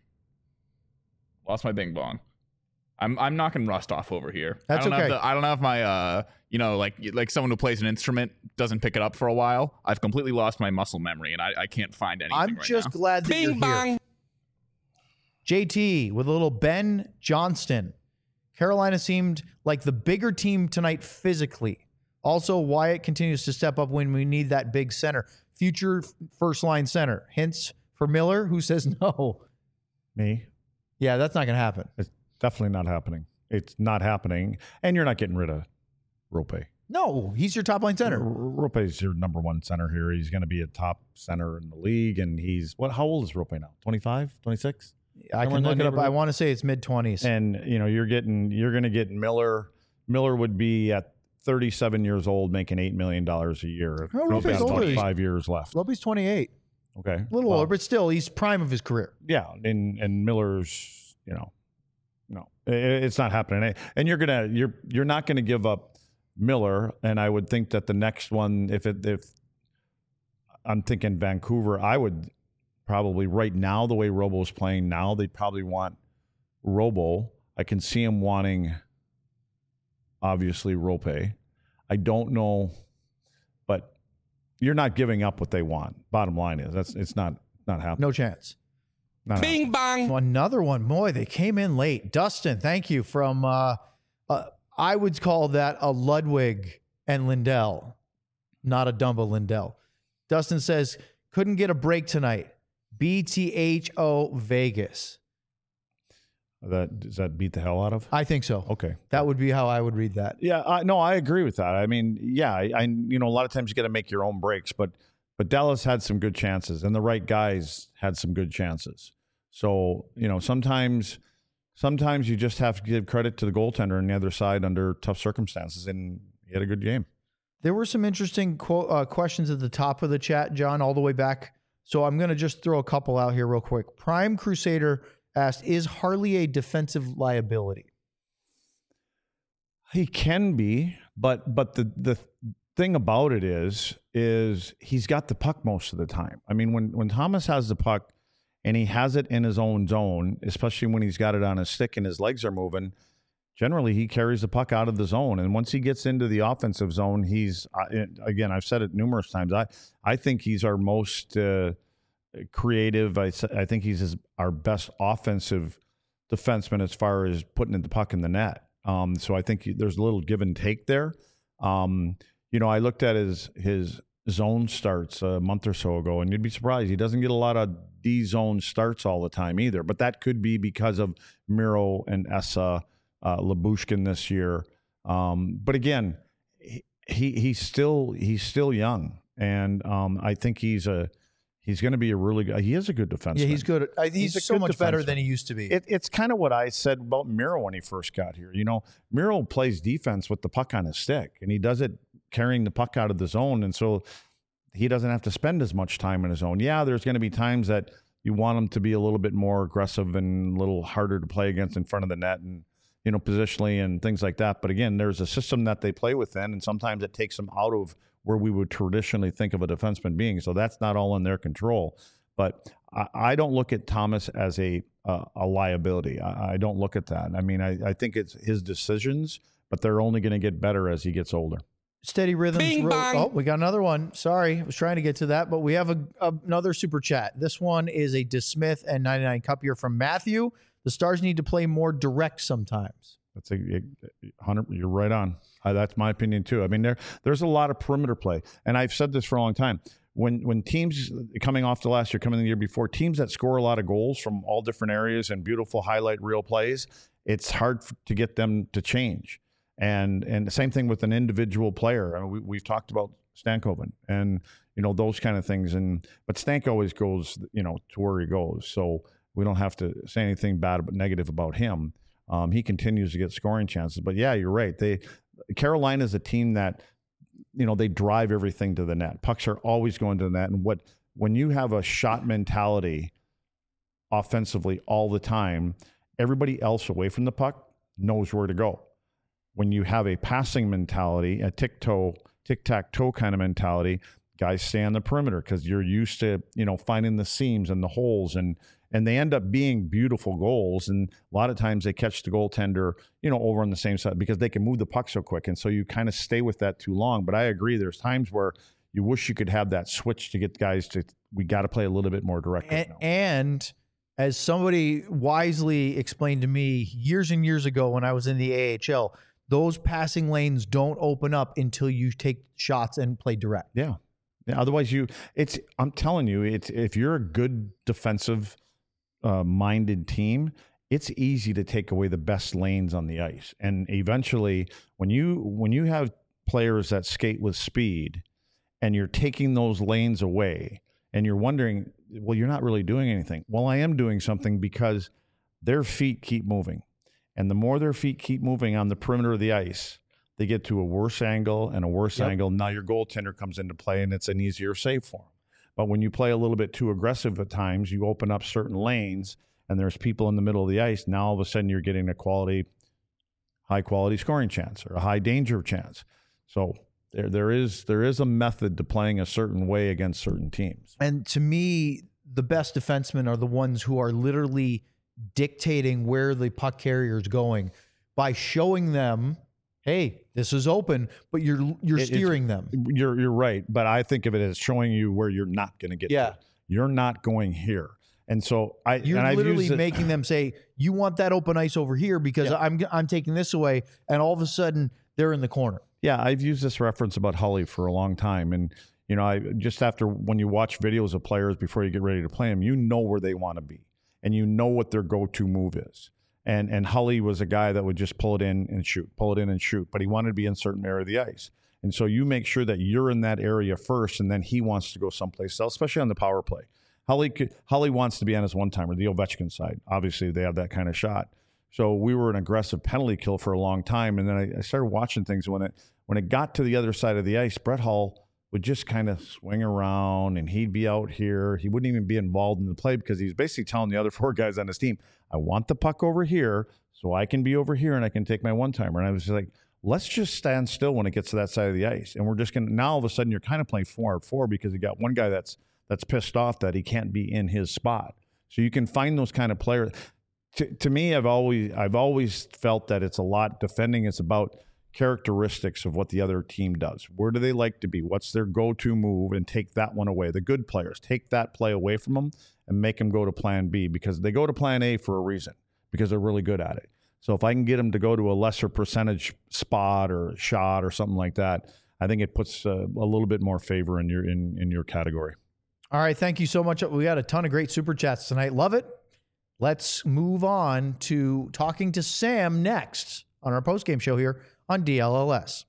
Lost my bing bong. I'm knocking rust off over here. That's okay. I don't have my like someone who plays an instrument doesn't pick it up for a while. I've completely lost my muscle memory and I can't find anything. I'm just glad that you're here. JT with a little Ben Johnston. Carolina seemed like the bigger team tonight physically. Also, Wyatt continues to step up when we need that big center. Future first line center. Hints for Miller, who says no. Me? Yeah, that's not going to happen. It's definitely not happening. It's not happening. And you're not getting rid of Rope. No, he's your top line center. Rope is your number one center here. He's going to be a top center in the league. And how old is Rope now? 25, 26? I can look it up. I want to say it's mid-20s. And, you're going to get Miller. Miller would be at 37 years old making $8 million a year. Rope's older. 5 years left. Rope's 28. Okay. A little older, but still, he's prime of his career. Yeah. And Miller's, no, it's not happening. And you're not going to give up Miller. And I would think that the next one, if I'm thinking Vancouver, I would probably right now, the way Robo's playing now, they'd probably want Robo. I can see him wanting, obviously, Rope. I don't know, but you're not giving up what they want. Bottom line is it's not happening. No chance. Bing bang. Another one. Boy, they came in late. Dustin, thank you. From I would call that a Ludwig and Lindell, not a Dumba Lindell. Dustin says, couldn't get a break tonight. BTHO Vegas. Does that beat the hell out of? I think so. Okay. That would be how I would read that. Yeah, no, I agree with that. I mean, yeah, I you know, a lot of times you got to make your own breaks, but Dallas had some good chances, and the right guys had some good chances. So, you know, sometimes you just have to give credit to the goaltender on the other side under tough circumstances, and he had a good game. There were some interesting questions at the top of the chat, John, all the way back. So I'm going to just throw a couple out here real quick. Prime Crusader asked, is Harley a defensive liability? He can be, but the thing about it is he's got the puck most of the time. I mean, when Thomas has the puck and he has it in his own zone, especially when he's got it on his stick and his legs are moving, generally he carries the puck out of the zone. And once he gets into the offensive zone, he's, again, I've said it numerous times, I think he's our most creative. I think he's our best offensive defenseman as far as putting the puck in the net. So I think there's a little give and take there. You know, I looked at his zone starts a month or so ago, and you'd be surprised. He doesn't get a lot of D-zone starts all the time either. But that could be because of Miro and Essa, Lyubushkin this year. But again, he's still young, and I think he's going to be a really good. He is a good defenseman. Yeah, he's good. He's so much better than he used to be. It's kind of what I said about Miro when he first got here. You know, Miro plays defense with the puck on his stick, and he does it carrying the puck out of the zone, and so he doesn't have to spend as much time in his zone. Yeah, there's going to be times that you want him to be a little bit more aggressive and a little harder to play against in front of the net, and you know, positionally and things like that. But again, there's a system that they play within, and sometimes it takes them out of where we would traditionally think of a defenseman being. So that's not all in their control. But I don't look at Thomas as a liability. I don't look at that. I mean, I think it's his decisions, but they're only going to get better as he gets older. Steady Rhythms. Bing, bang. Oh, we got another one. Sorry, I was trying to get to that, but we have another super chat. This one is a DeSmith and 99 Cup here from Matthew. The Stars need to play more direct sometimes. That's 100. You're right on. That's my opinion too. I mean, there's a lot of perimeter play, and I've said this for a long time. When teams coming off the last year, coming the year before, teams that score a lot of goals from all different areas and beautiful highlight reel plays, it's hard to get them to change. And the same thing with an individual player. I mean, we've talked about Stankoven and you know those kind of things. But Stank always goes to where he goes, so we don't have to say anything bad but negative about him. He continues to get scoring chances. But yeah, you're right. Carolina is a team that they drive everything to the net. Pucks are always going to the net. And when you have a shot mentality offensively all the time, everybody else away from the puck knows where to go. When you have a passing mentality, a tic-tac-toe kind of mentality, guys stay on the perimeter because you're used to, finding the seams and the holes, and they end up being beautiful goals. And a lot of times they catch the goaltender, over on the same side because they can move the puck so quick. And so you kind of stay with that too long. But I agree, there's times where you wish you could have that switch to get guys we got to play a little bit more direct right now. And as somebody wisely explained to me years and years ago when I was in the AHL, those passing lanes don't open up until you take shots and play direct. Yeah. Otherwise, I'm telling you, if you're a good defensive minded team, it's easy to take away the best lanes on the ice. And eventually, when you have players that skate with speed, and you're taking those lanes away, and you're wondering, well, you're not really doing anything. Well, I am doing something because their feet keep moving. And the more their feet keep moving on the perimeter of the ice, they get to a worse angle and a worse angle. Now your goaltender comes into play, and it's an easier save for them. But when you play a little bit too aggressive at times, you open up certain lanes, and there's people in the middle of the ice. Now all of a sudden you're getting a high-quality scoring chance or a high-danger chance. So there is a method to playing a certain way against certain teams. And to me, the best defensemen are the ones who are literally dictating where the puck carrier is going by showing them, hey, this is open, but you're steering them. You're right, but I think of it as showing you where you're not going to get to. You're not going here. And so you're literally making them say, you want that open ice over here because I'm taking this away, and all of a sudden they're in the corner. Yeah, I've used this reference about Hully for a long time, and I just after when you watch videos of players before you get ready to play them, you know where they want to be. And you know what their go-to move is. And Hully was a guy that would just pull it in and shoot, but he wanted to be in a certain area of the ice. And so you make sure that you're in that area first, and then he wants to go someplace else, especially on the power play. Hully wants to be on his one-timer, the Ovechkin side. Obviously, they have that kind of shot. So we were an aggressive penalty kill for a long time, and then I started watching things. When it got to the other side of the ice, Brett Hull would just kind of swing around, and he'd be out here. He wouldn't even be involved in the play because he was basically telling the other 4 guys on his team, I want the puck over here so I can be over here and I can take my one-timer. And I was like, let's just stand still when it gets to that side of the ice. And we're just going to – now all of a sudden you're kind of playing 4-on-4 because you got one guy that's pissed off that he can't be in his spot. So you can find those kind of players. To me, I've always felt that it's a lot defending. It's about characteristics of what the other team does. Where do they like to be? What's their go-to move? And take that one away. The good players, take that play away from them and make them go to plan B, because they go to plan A for a reason, because they're really good at it. So if I can get them to go to a lesser percentage spot or shot or something like that, I think it puts a little bit more favor in your category. All right, thank you so much. We got a ton of great super chats tonight. Love it. Let's move on to talking to Sam next on our postgame show here on DLLS.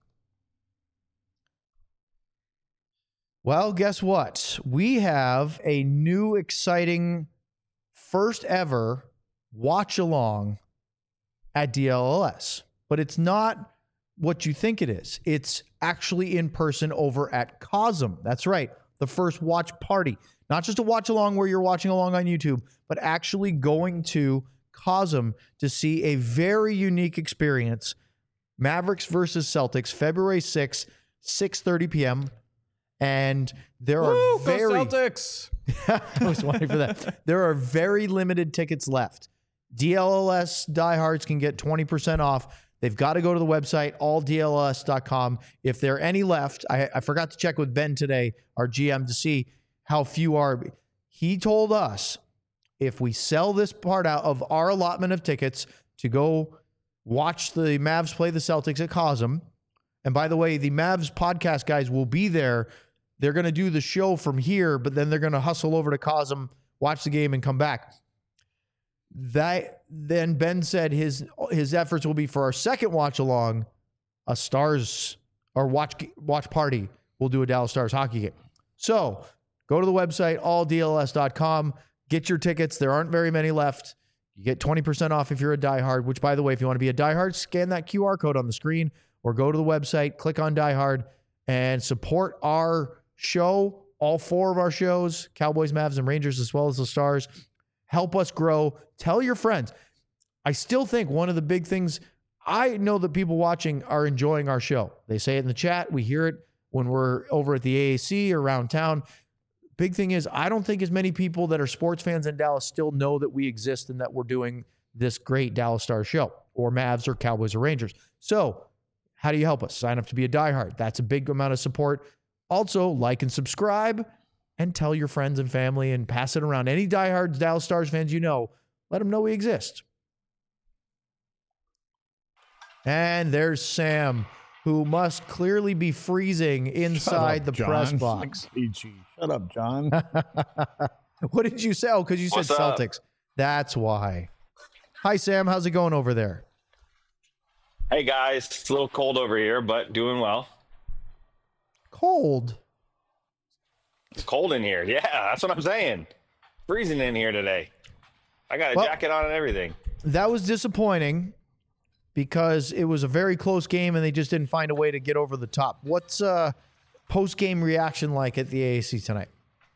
Well, guess what? We have a new exciting first ever watch along at DLLS, but it's not what you think it is. It's actually in person over at Cosm. That's right. The first watch party, not just a watch along where you're watching along on YouTube, but actually going to Cosm to see a very unique experience. Mavericks versus Celtics, February 6th, 6:30 p.m. And there are Go very Celtics. I was waiting for that. There are very limited tickets left. DLLS diehards can get 20% off. They've got to go to the website, alldlls.com. If there are any left, I forgot to check with Ben today, our GM, to see how few are. He told us if we sell this part out of our allotment of tickets to go watch the Mavs play the Celtics at Cosm, and by the way, the Mavs podcast guys will be there. They're going to do the show from here, but then they're going to hustle over to Cosm, watch the game, and come back. Then Ben said his efforts will be for our second watch along, a Stars or watch party. We'll do a Dallas Stars hockey game. So go to the website, alldls.com. Get your tickets. There aren't very many left. You get 20% off if you're a diehard, which, by the way, if you want to be a diehard, scan that QR code on the screen or go to the website, click on diehard, and support our show, all 4 of our shows, Cowboys, Mavs, and Rangers, as well as the Stars. Help us grow. Tell your friends. I still think one of the big things, I know that people watching are enjoying our show. They say it in the chat. We hear it when we're over at the AAC or around town. Big thing is, I don't think as many people that are sports fans in Dallas still know that we exist and that we're doing this great Dallas Stars show, or Mavs or Cowboys or Rangers. So how do you help us? Sign up to be a diehard. That's a big amount of support. Also, like and subscribe and tell your friends and family and pass it around. Any diehard Dallas Stars fans you know, let them know we exist. And there's Sam, who must clearly be freezing inside the press box. Shut up, John. What did you say? Oh, because you said Celtics. That's why. Hi, Sam. How's it going over there? Hey, guys. It's a little cold over here, but doing well. Cold? It's cold in here. Yeah, that's what I'm saying. Freezing in here today. I got a jacket on and everything. That was disappointing because it was a very close game and they just didn't find a way to get over the top. What's post-game reaction like at the AAC tonight?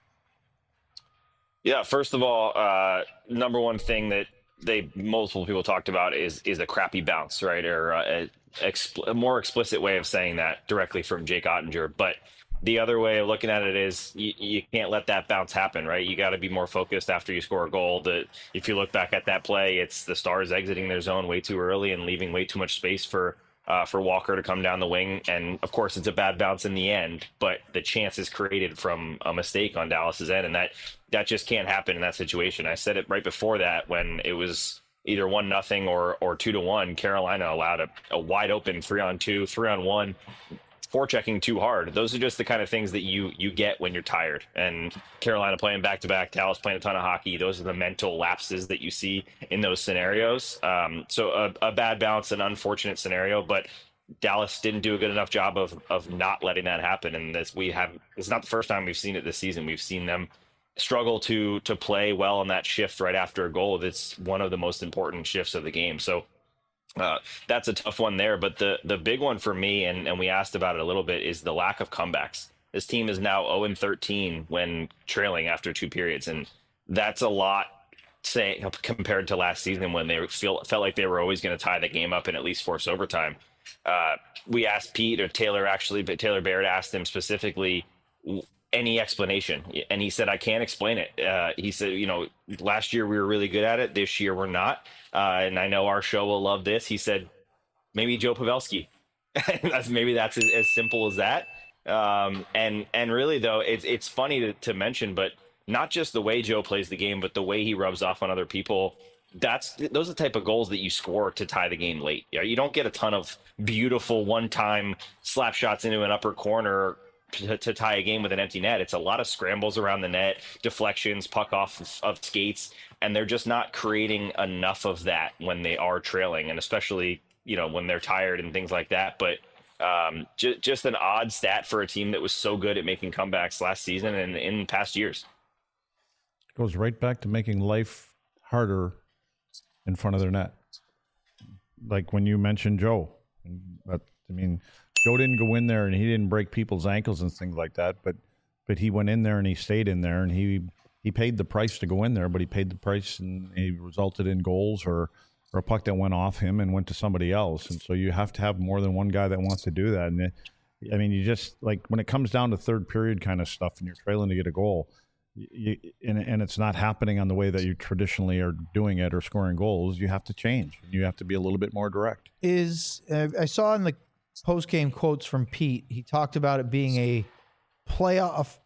Yeah, first of all, number one thing that multiple people talked about is a crappy bounce, right? Or a more explicit way of saying that directly from Jake Ottinger. But the other way of looking at it is you can't let that bounce happen, right? You got to be more focused after you score a goal. If you look back at that play, it's the Stars exiting their zone way too early and leaving way too much space for Walker to come down the wing. And of course, it's a bad bounce in the end, but the chance is created from a mistake on Dallas's end, and that just can't happen in that situation. I said it right before that when it was either 1-0 or 2-1. Carolina allowed a wide open 3-on-2, 3-on-1 forechecking too hard. Those are just the kind of things that you get when you're tired. And Carolina playing back-to-back, Dallas playing a ton of hockey. Those are the mental lapses that you see in those scenarios. So a bad bounce, an unfortunate scenario, but Dallas didn't do a good enough job of not letting that happen. And it's not the first time we've seen it this season. We've seen them struggle to play well on that shift right after a goal. That's one of the most important shifts of the game. So that's a tough one there. But the big one for me, and we asked about it a little bit, is the lack of comebacks. This team is now 0-13 when trailing after 2 periods. And that's a lot compared to last season when they felt like they were always going to tie the game up and at least force overtime. We asked Pete, or Taylor actually, but Taylor Baird asked him specifically any explanation. And he said, I can't explain it. He said, last year we were really good at it. This year we're not. And I know our show will love this. He said, maybe Joe Pavelski. Maybe that's as simple as that. And really though, it's funny to mention, but not just the way Joe plays the game, but the way he rubs off on other people. Those are the type of goals that you score to tie the game late. You don't get a ton of beautiful one-time slap shots into an upper corner to tie a game with an empty net. It's a lot of scrambles around the net, deflections, puck off of skates, and they're just not creating enough of that when they are trailing, and especially when they're tired and things like that. But just an odd stat for a team that was so good at making comebacks last season and in past years. Goes right back to making life harder in front of their net. Like when you mentioned Joe, Joe didn't go in there and he didn't break people's ankles and things like that, but he went in there and he stayed in there and he paid the price to go in there, but he paid the price and he resulted in goals or a puck that went off him and went to somebody else. And so you have to have more than one guy that wants to do that. And you just, like, when it comes down to third period kind of stuff and you're trailing to get a goal, and it's not happening on the way that you traditionally are doing it or scoring goals, you have to change. You have to be a little bit more direct. I saw in the post-game quotes from Pete, he talked about it being a playoff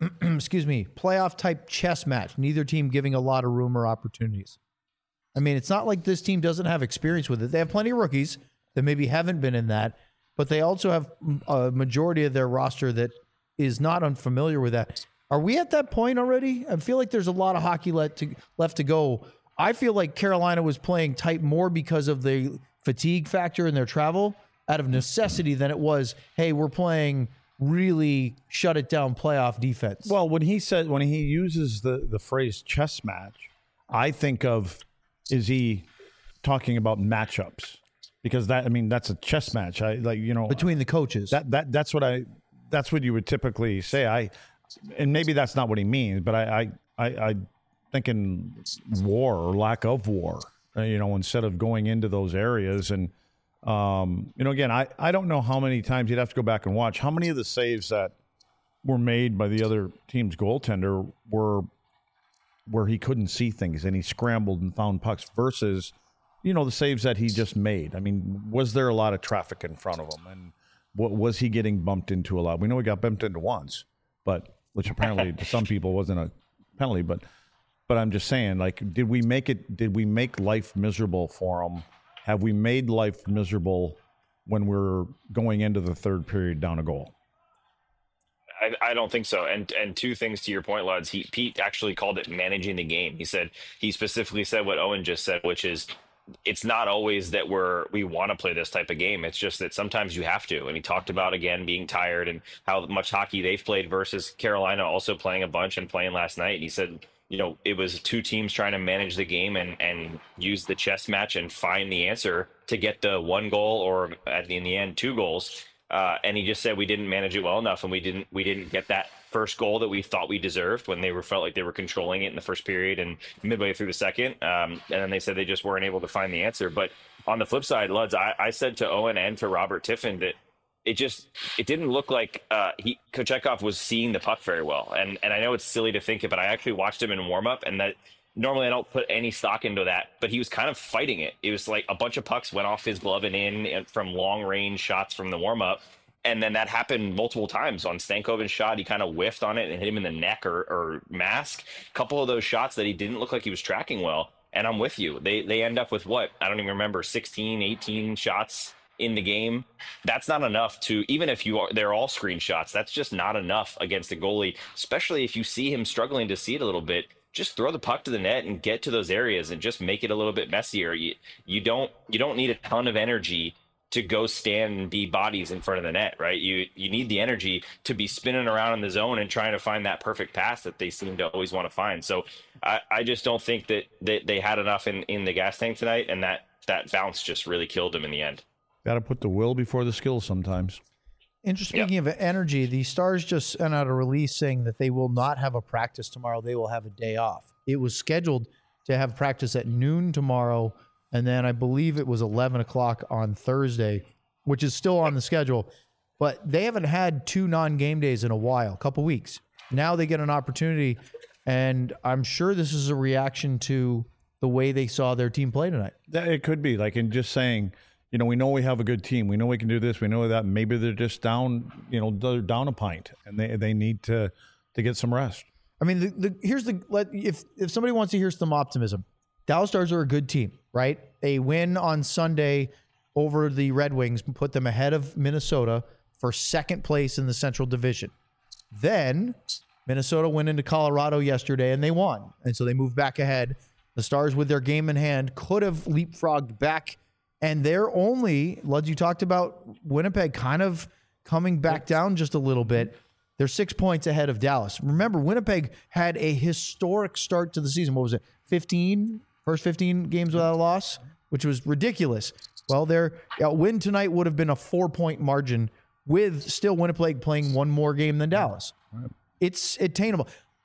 type chess match, neither team giving a lot of room or opportunities. It's not like this team doesn't have experience with it. They have plenty of rookies that maybe haven't been in that, but they also have a majority of their roster that is not unfamiliar with that. Are we at that point already? I feel like there's a lot of hockey left to go. I feel like Carolina was playing tight more because of the fatigue factor in their travel out of necessity than it was, hey, we're playing really shut it down playoff defense. Well, when he uses the phrase chess match, I think of, is he talking about matchups? Because that's a chess match. Between the coaches. That's what you would typically say. And maybe that's not what he means, but I thinking war or lack of war, instead of going into those areas. And, again, I don't know how many times, you'd have to go back and watch how many of the saves that were made by the other team's goaltender were where he couldn't see things and he scrambled and found pucks versus, the saves that he just made. Was there a lot of traffic in front of him? And was he getting bumped into a lot? We know he got bumped into once, which apparently to some people wasn't a penalty, but I'm just saying, did we make life miserable for him? Have we made life miserable when we're going into the third period down a goal? I don't think so. And 2 things to your point, Luds. Pete actually called it managing the game. He specifically said what Owen just said, which is, it's not always that we want to play this type of game. It's just that sometimes you have to. And he talked about, again, being tired and how much hockey they've played versus Carolina also playing a bunch and playing last night. And he said, it was 2 teams trying to manage the game and use the chess match and find the answer to get the 1 goal or in the end 2 goals. And he just said we didn't manage it well enough, and we didn't get that first goal that we thought we deserved when they felt like they were controlling it in the first period and midway through the second. And then they said they just weren't able to find the answer. But on the flip side, Luds, I said to Owen and to Robert Tiffin that it didn't look like Kochetkov was seeing the puck very well. And I know it's silly to think it, but I actually watched him in warm up, and that normally I don't put any stock into that, but he was kind of fighting it. It was like a bunch of pucks went off his glove and in from long range shots from the warm up. And then that happened multiple times. On Stankoven's shot, he kind of whiffed on it and hit him in the neck or mask. A couple of those shots that he didn't look like he was tracking well. And I'm with you. They end up with what? I don't even remember, 16, 18 shots in the game, that's not enough to, even if they're all screenshots, that's just not enough against a goalie, especially if you see him struggling to see it a little bit. Just throw the puck to the net and get to those areas and just make it a little bit messier. You don't need a ton of energy to go stand and be bodies in front of the net, right? You need the energy to be spinning around in the zone and trying to find that perfect pass that they seem to always want to find. So I just don't think that they had enough in the gas tank tonight, and that bounce just really killed them in the end. Got to put the will before the skill sometimes. Speaking of energy, the Stars just sent out a release saying that they will not have a practice tomorrow. They will have a day off. It was scheduled to have practice at noon tomorrow, and then I believe it was 11 o'clock on Thursday, which is still on the schedule. But they haven't had 2 non-game days in a while, a couple weeks. Now they get an opportunity, and I'm sure this is a reaction to the way they saw their team play tonight. It could be like in just saying, we know we have a good team. We know we can do this. We know that. Maybe they're just down, they're down a pint, and they need to get some rest. I mean, if somebody wants to hear some optimism, Dallas Stars are a good team, right? A win on Sunday over the Red Wings put them ahead of Minnesota for second place in the Central Division. Then Minnesota went into Colorado yesterday and they won, and so they moved back ahead. The Stars, with their game in hand, could have leapfrogged back. And they're only, Luds, you talked about Winnipeg kind of coming back down just a little bit. They're 6 points ahead of Dallas. Remember, Winnipeg had a historic start to the season. What was it? First 15 games without a loss, which was ridiculous. Well, their win tonight would have been a 4-point margin with still Winnipeg playing one more game than Dallas. It's attainable.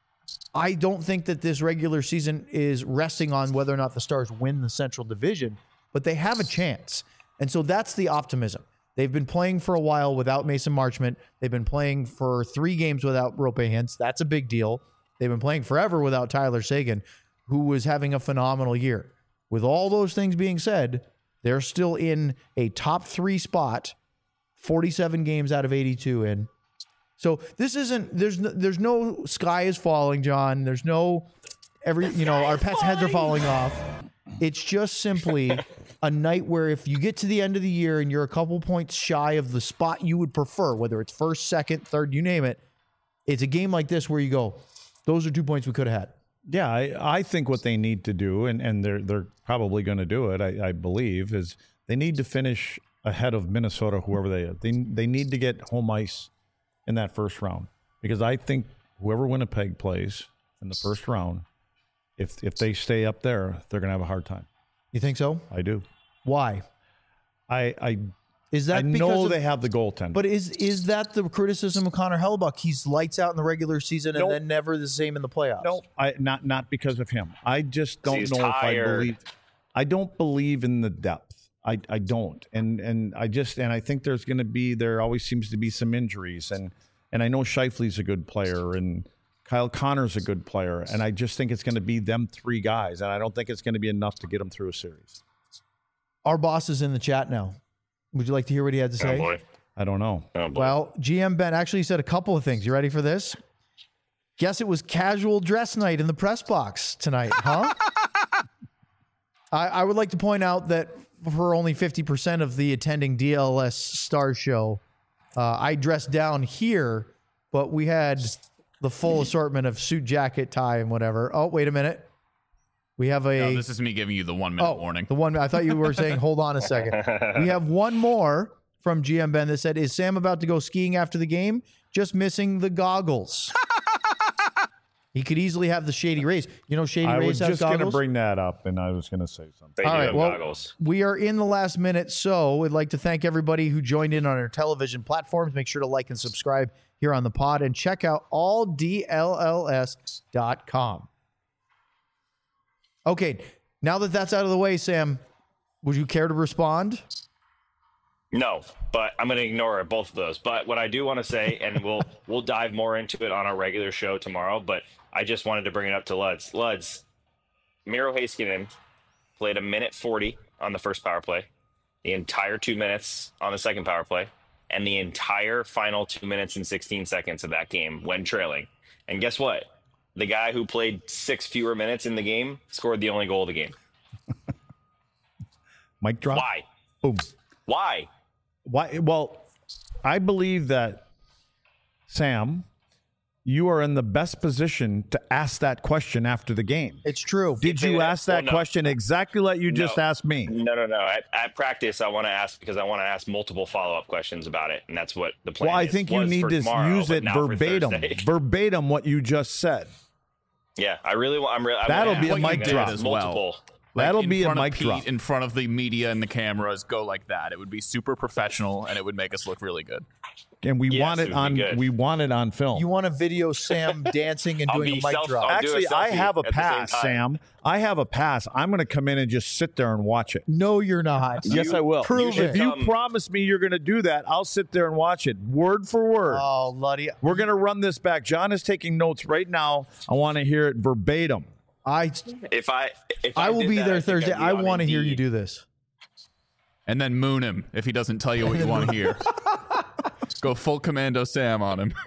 I don't think that this regular season is resting on whether or not the Stars win the Central Division, but they have a chance. And so that's the optimism. They've been playing for a while without Mason Marchment. They've been playing for 3 games without Roope Hintz. That's a big deal. They've been playing forever without Tyler Seguin, who was having a phenomenal year. With all those things being said, they're still in a top 3 spot, 47 games out of 82 in. So this isn't, there's no sky is falling, John. There's no, our pets' heads are falling off. It's just simply a night where if you get to the end of the year and you're a couple points shy of the spot you would prefer, whether it's first, second, third, you name it, it's a game like this where you go, those are 2 points we could have had. Yeah, I think what they need to do, and they're probably going to do it, I believe, is they need to finish ahead of Minnesota, whoever they are. They need to get home ice in that first round, because I think whoever Winnipeg plays in the first round, if they stay up there, they're going to have a hard time. You think so? I do. Why? Is that I know they have the goaltender. But is that the criticism of Connor Hellebuyck? He's lights out in the regular season and then never the same in the playoffs. No, not because of him. I just don't know tired. if I believe. I don't believe in the depth. I don't, and I think there always seems to be some injuries, and I know Scheifele's a good player, and Kyle Connor's a good player, and I just think it's going to be them 3 guys, and I don't think it's going to be enough to get them through a series. Our boss is in the chat now. Would you like to hear what he had to say? Oh boy. I don't know. Oh boy. Well, GM Ben actually said a couple of things. You ready for this? Guess it was casual dress night in the press box tonight, huh? I would like to point out that for only 50% of the attending DLS Stars show, I dressed down here, but we had the full assortment of suit, jacket, tie, and whatever. Oh, wait a minute. We have a... No, this is me giving you the 1 minute warning. The one, I thought you were saying, hold on a second. We have one more from GM Ben that said, is Sam about to go skiing after the game? Just missing the goggles. He could easily have the Shady Rays. You know, Shady Rays has goggles. I was just going to bring that up, and I was going to say something. They All do right, have well, goggles. we are in the last minute, so we'd like to thank everybody who joined in on our television platforms. Make sure to like and subscribe here on the pod, and check out alldlls.com. Okay, now that that's out of the way, Sam, would you care to respond? No, but I'm going to ignore both of those. But what I do want to say, and we'll dive more into it on our regular show tomorrow, but I just wanted to bring it up to Luds. Luds, Miro Heiskanen played 1:40 on the first power play, the entire 2 minutes on the second power play, and the entire final 2 minutes and 16 seconds of that game when trailing. And guess what? The guy who played 6 fewer minutes in the game scored the only goal of the game. Mic drop. Why? Boom. Why? Why? Well, I believe that, Sam, you are in the best position to ask that question after the game. It's true. Did you ask that question exactly like you just asked me? No. At practice, I want to ask because I want to ask multiple follow-up questions about it, and that's what the plan is. Well, I think you need to use it verbatim what you just said. Yeah, I really want. That'll be a mic drop as multiple. well. That'll in be a front of mic Pete, drop. in front of the media and the cameras. Go like that. It would be super professional, and it would make us look really good. And we want it would on. be good. We want it on film. You want to video Sam dancing and doing a mic drop. Actually, I have a at the same pass, time. Sam. I have a pass. I'm going to come in and just sit there and watch it. No, you're not. Yes, I will. Prove If it. you promise me you're going to do that, I'll sit there and watch it word for word. Oh, Luddy. We're going to run this back. John is taking notes right now. I want to hear it verbatim. If I will did be that, there I think Thursday. I'd be I on want to hear you Indeed. do this. And then moon him if he doesn't tell you what you want to hear. Go full Commando Sam on him.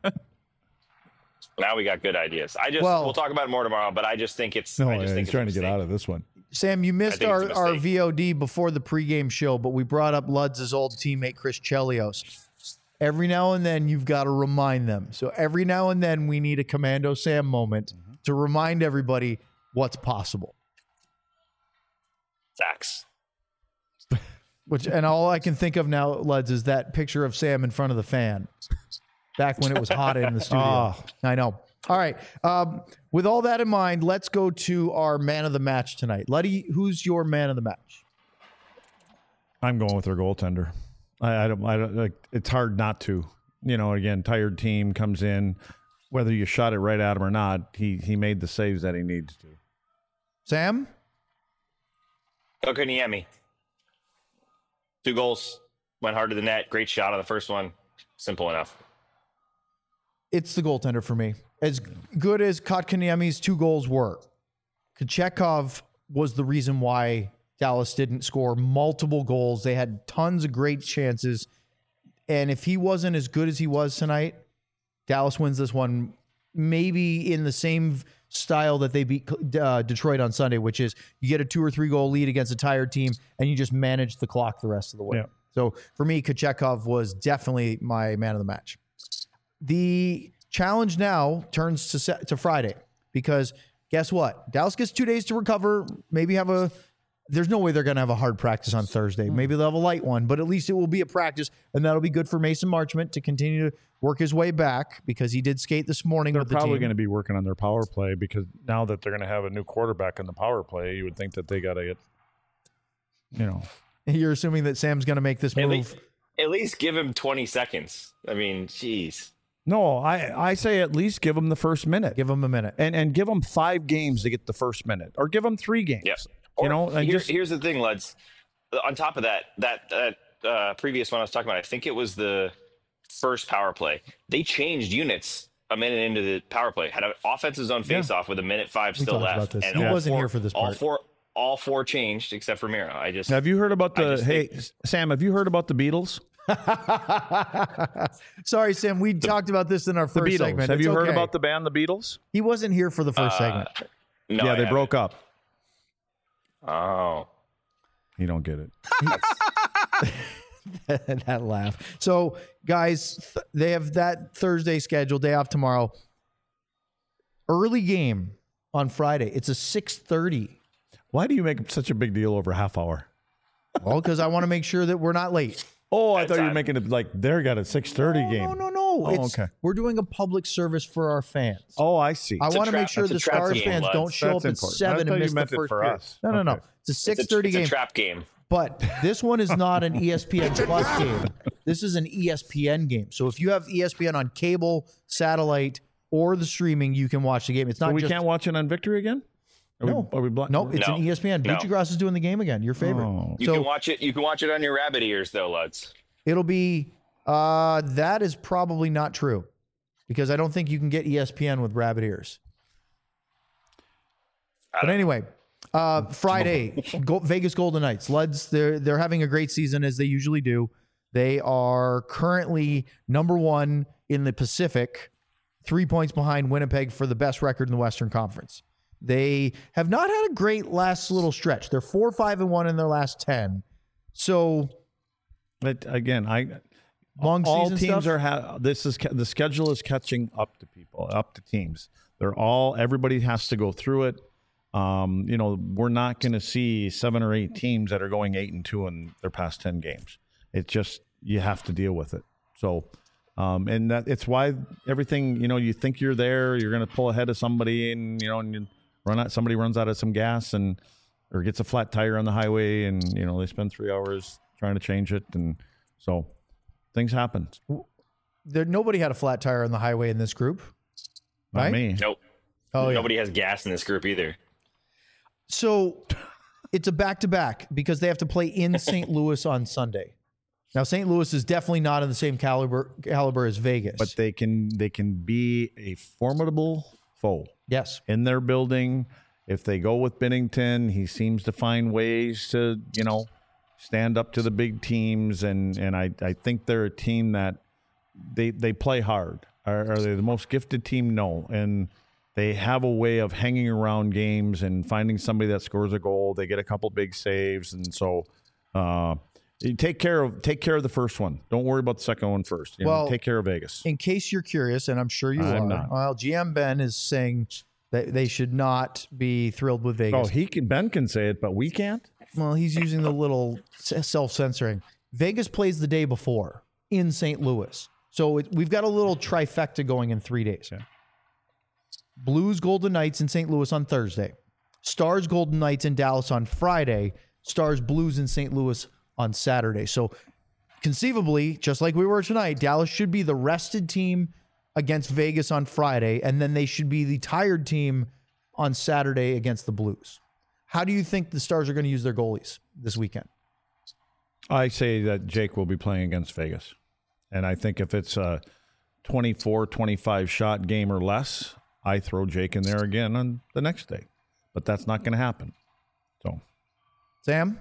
Now we got good ideas. We'll talk about it more tomorrow, but I just think it's. No, I just think he's trying to get out of this one. Sam, you missed think our it's a mistake. VOD before the pregame show, but we brought up Ludz's old teammate, Chris Chelios. Every now and then, you've got to remind them. So every now and then, we need a Commando Sam moment to remind everybody what's possible. Facts. And all I can think of now, Luds, is that picture of Sam in front of the fan back when it was hot in the studio. I know. All right. With all that in mind, let's go to our man of the match tonight. Luddy, who's your man of the match? I'm going with their goaltender. I don't like. It's hard not to. You know, again, tired team comes in. Whether you shot it right at him or not, he made the saves that he needs to. Sam? Kotkaniemi. 2 goals. Went hard to the net. Great shot on the first one. Simple enough. It's the goaltender for me. As good as Kotkaniemi's 2 goals were, Kochetkov was the reason why Dallas didn't score multiple goals. They had tons of great chances. And if he wasn't as good as he was tonight, Dallas wins this one maybe in the same style that they beat Detroit on Sunday, which is you get a 2 or 3 goal lead against a tired team and you just manage the clock the rest of the way. Yeah. So for me, Kochetkov was definitely my man of the match. The challenge now turns to Friday because guess what? Dallas gets 2 days to recover, maybe there's no way they're going to have a hard practice on Thursday. Maybe they'll have a light one, but at least it will be a practice, and that'll be good for Mason Marchment to continue to work his way back because he did skate this morning with the team. They're probably going to be working on their power play because now that they're going to have a new quarterback in the power play, you would think that they got to get, You're assuming that Sam's going to make this move. At least give him 20 seconds. I mean, jeez. No, I say at least give them the first minute. Give him a minute. And give them 5 games to get the first minute. Or give them 3 games. Yep. Here's the thing, Luds. On top of that previous one I was talking about, I think it was the first power play. They changed units a minute into the power play. Had an offensive zone face-off with 1:05 still talked about left. this. And He wasn't here for this part. All four changed except for Miro. Have you heard about Sam, have you heard about the Beatles? Sorry, Sam. We talked about this in our The first Beatles. segment. Have It's you heard okay. about the band The Beatles? He wasn't here for the first segment. No, Yeah, they broke up. Oh. You don't get it. That laugh. So, guys, they have that Thursday schedule, day off tomorrow. Early game on Friday. It's a 6:30. Why do you make such a big deal over half hour? Well, because I want to make sure that we're not late. Oh, I thought you were making it like they're got a 6:30 game. No. Okay. We're doing a public service for our fans. Oh, I see. I want to make sure that's a the trap Stars game, fans Lutz. don't show That's up at important. 7 I and thought you miss the meant it first for period. us. No. Okay. It's a 6:30 It's a game. trap game. But this one is not an ESPN Plus game. This is an ESPN game. So if you have ESPN on cable, satellite, or the streaming, you can watch the game. It's not So we just can't watch it on Victory again? No. Are we blind? No, it's No. an ESPN. No. Buccigross is doing the game again. Your favorite. Oh. You can watch it. You can watch it on your rabbit ears, though, Lutz. It'll be that is probably not true because I don't think you can get ESPN with rabbit ears. But anyway, Friday, Vegas Golden Knights. Luds, they're having a great season as they usually do. They are currently number 1 in the Pacific, 3 points behind Winnipeg for the best record in the Western Conference. They have not had a great last little stretch. They're 4-5-1 in their last 10. So But again, Long all season teams stuff? are the schedule is catching up to people, up to teams. Everybody has to go through it. We're not going to see 7 or 8 teams that are going 8-2 in their past 10 games. It's just, you have to deal with it. So, and that it's why everything, you think you're there, you're going to pull ahead of somebody, and you somebody runs out of some gas or gets a flat tire on the highway, and they spend 3 hours trying to change it, and so things happen. Nobody had a flat tire on the highway in this group, right? Not me. Nope. Oh, yeah. Nobody has gas in this group either. So it's a back-to-back because they have to play in St. Louis on Sunday. Now, St. Louis is definitely not in the same caliber as Vegas. But they can be a formidable foe. Yes. In their building. If they go with Binnington, he seems to find ways to, stand up to the big teams. And I think they're a team that they play hard. Are they the most gifted team? No. And they have a way of hanging around games and finding somebody that scores a goal. They get a couple big saves. And so you take care of the first one. Don't worry about the second one first. Take care of Vegas. In case you're curious, and I'm sure you are, not. well, GM Ben is saying that they should not be thrilled with Vegas. Oh, Ben can say it, but we can't? Well, he's using the little self-censoring. Vegas plays the day before in St. Louis. So we've got a little trifecta going in 3 days. Yeah. Blues Golden Knights in St. Louis on Thursday. Stars Golden Knights in Dallas on Friday. Stars Blues in St. Louis on Saturday. So conceivably, just like we were tonight, Dallas should be the rested team against Vegas on Friday, and then they should be the tired team on Saturday against the Blues. How do you think the Stars are going to use their goalies this weekend? I say that Jake will be playing against Vegas. And I think if it's a 24, 25 shot game or less, I throw Jake in there again on the next day. But that's not going to happen. So, Sam?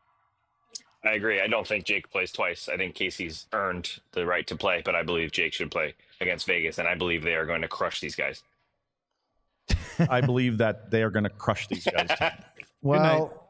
I agree. I don't think Jake plays twice. I think Casey's earned the right to play, but I believe Jake should play against Vegas, and I believe they are going to crush these guys. I believe that they are going to crush these guys. Well,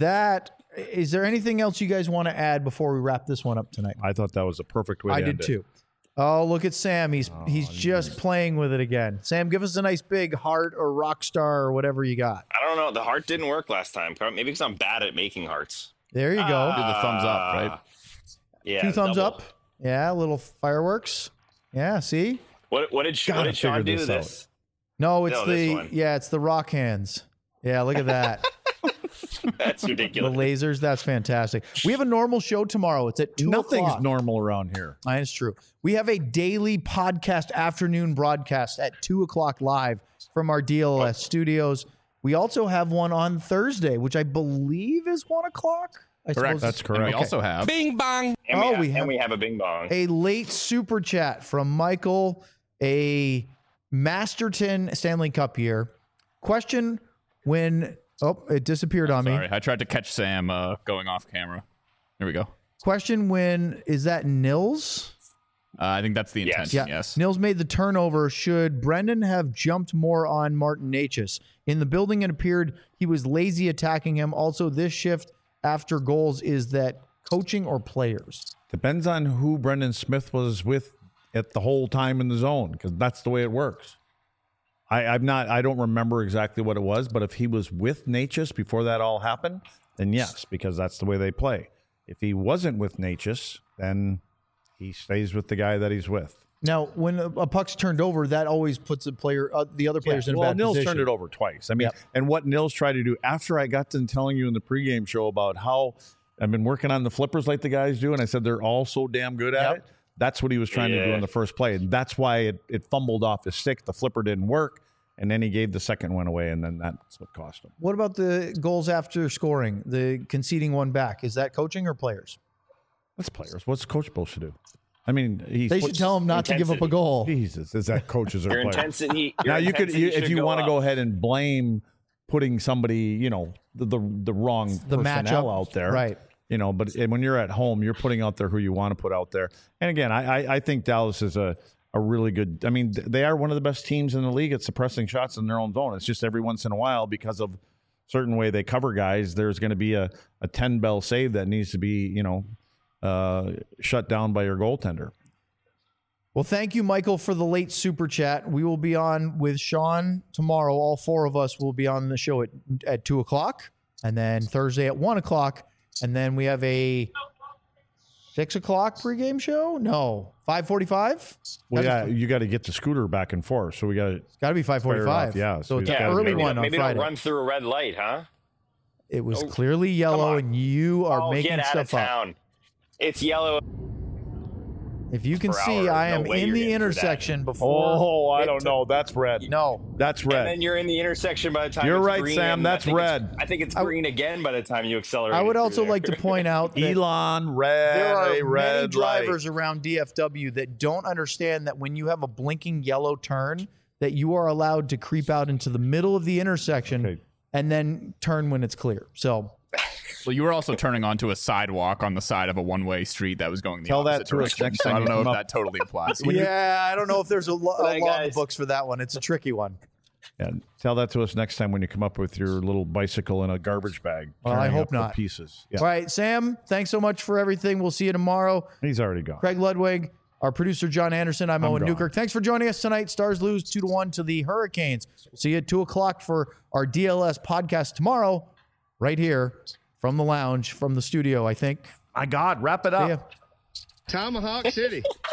is there anything else you guys want to add before we wrap this one up tonight? I thought that was a perfect way to I end did too. Oh, look at Sam. He's just playing with it again. Sam, give us a nice big heart or rock star or whatever you got. I don't know. The heart didn't work last time. Maybe because I'm bad at making hearts. There you go. Do the thumbs up, right? Yeah. 2 thumbs double. up. Yeah, a little fireworks. Yeah, see? What did Sean do to this? No, it's this one. it's the rock hands. Yeah, look at that. That's The ridiculous. lasers, that's fantastic. We have a normal show tomorrow. It's at 2 Nothing's o'clock. normal around here. That's true. We have a daily podcast afternoon broadcast at 2 o'clock live from our DLS studios. We also have one on Thursday, which I believe is 1 o'clock. Correct. That's correct. And we Okay. also have Bing bong. And we we have have a bing bong. a late super chat from Michael, a Masterton Stanley Cup year. Question when... Oh, it disappeared on me. Sorry, I tried to catch Sam going off camera. Here we go. Question when... Is that Nils? I think that's the Yes. intention. Yeah. Yes. Nils made the turnover. Should Brendan have jumped more on Martin Necas? In the building, it appeared he was lazy attacking him. Also, this shift after goals, is that coaching or players? Depends on who Brendan Smith was with at the whole time in the zone, because that's the way it works. I don't remember exactly what it was, but if he was with Necas before that all happened, then yes, because that's the way they play. If he wasn't with Necas, then he stays with the guy that he's with. Now, when a puck's turned over, that always puts the other players in a bad Nils position. turned it over twice. I mean, Yep. and what Nils tried to do after I got done telling you in the pregame show about how I've been working on the flippers like the guys do, and I said they're all so damn good at Yep. it. That's what he was trying to do in the first play. And that's why it fumbled off his stick. The flipper didn't work. And then he gave the second one away, and then that's what cost him. What about the goals after scoring, the conceding one back? Is that coaching or players? That's players. What's the coach supposed to do? I mean, They should tell him not to give up a goal. Jesus, is that coaches or Your players? intensity. Now your you could, intensity if should you want to up. go ahead and blame putting somebody, the wrong The personnel matchup. out there, Right. But when you're at home, you're putting out there who you want to put out there. And again, I think Dallas is a really good. I mean, they are one of the best teams in the league at suppressing shots in their own zone. It's just every once in a while, because of certain way they cover guys, there's going to be a 10 bell save that needs to be shut down by your goaltender. Well, thank you, Michael, for the late super chat. We will be on with Sean tomorrow. All four of us will be on the show at 2 o'clock, and then Thursday at 1 o'clock. And then we have a 6 o'clock pregame show? No, 5:45? Well, you got to get the scooter back and forth. So It's got to be 5:45. Yeah. So it's an early one on maybe Friday. Don't run through a red light, huh? It was clearly yellow, and you are making get out stuff of up. town. It's yellow. If you can Per see, hour. I am No way in you're the getting through intersection before. Oh, I don't know. That's red. No. That's And red. then you're in the intersection by the time You're it's right, green, Sam. and That's red. I think it's green again by the time you accelerate. I would also like to point out that Elon, red, there are a many red drivers light. around DFW that don't understand that when you have a blinking yellow turn, that you are allowed to creep out into the middle of the intersection and then turn when it's clear. So, well, you were also turning onto a sidewalk on the side of a one-way street that was going the Tell that opposite to us direction. next So time I don't you know if come that totally applies. yeah, I don't know if there's a law in the guys. books for that one. It's a tricky one. Yeah, tell that to us next time when you come up with your little bicycle in a garbage bag. Well, I turning hope up the not. Pieces. Yeah. All right, Sam, thanks so much for everything. We'll see you tomorrow. He's already gone. Craig Ludwig, our producer, John Anderson. I'm Owen gone. Newkirk. Thanks for joining us tonight. Stars lose 2-1 to the Hurricanes. We'll see you at 2 o'clock for our DLS podcast tomorrow, right here from the lounge, from the studio, I think. My God, wrap it See ya. up. Tomahawk City.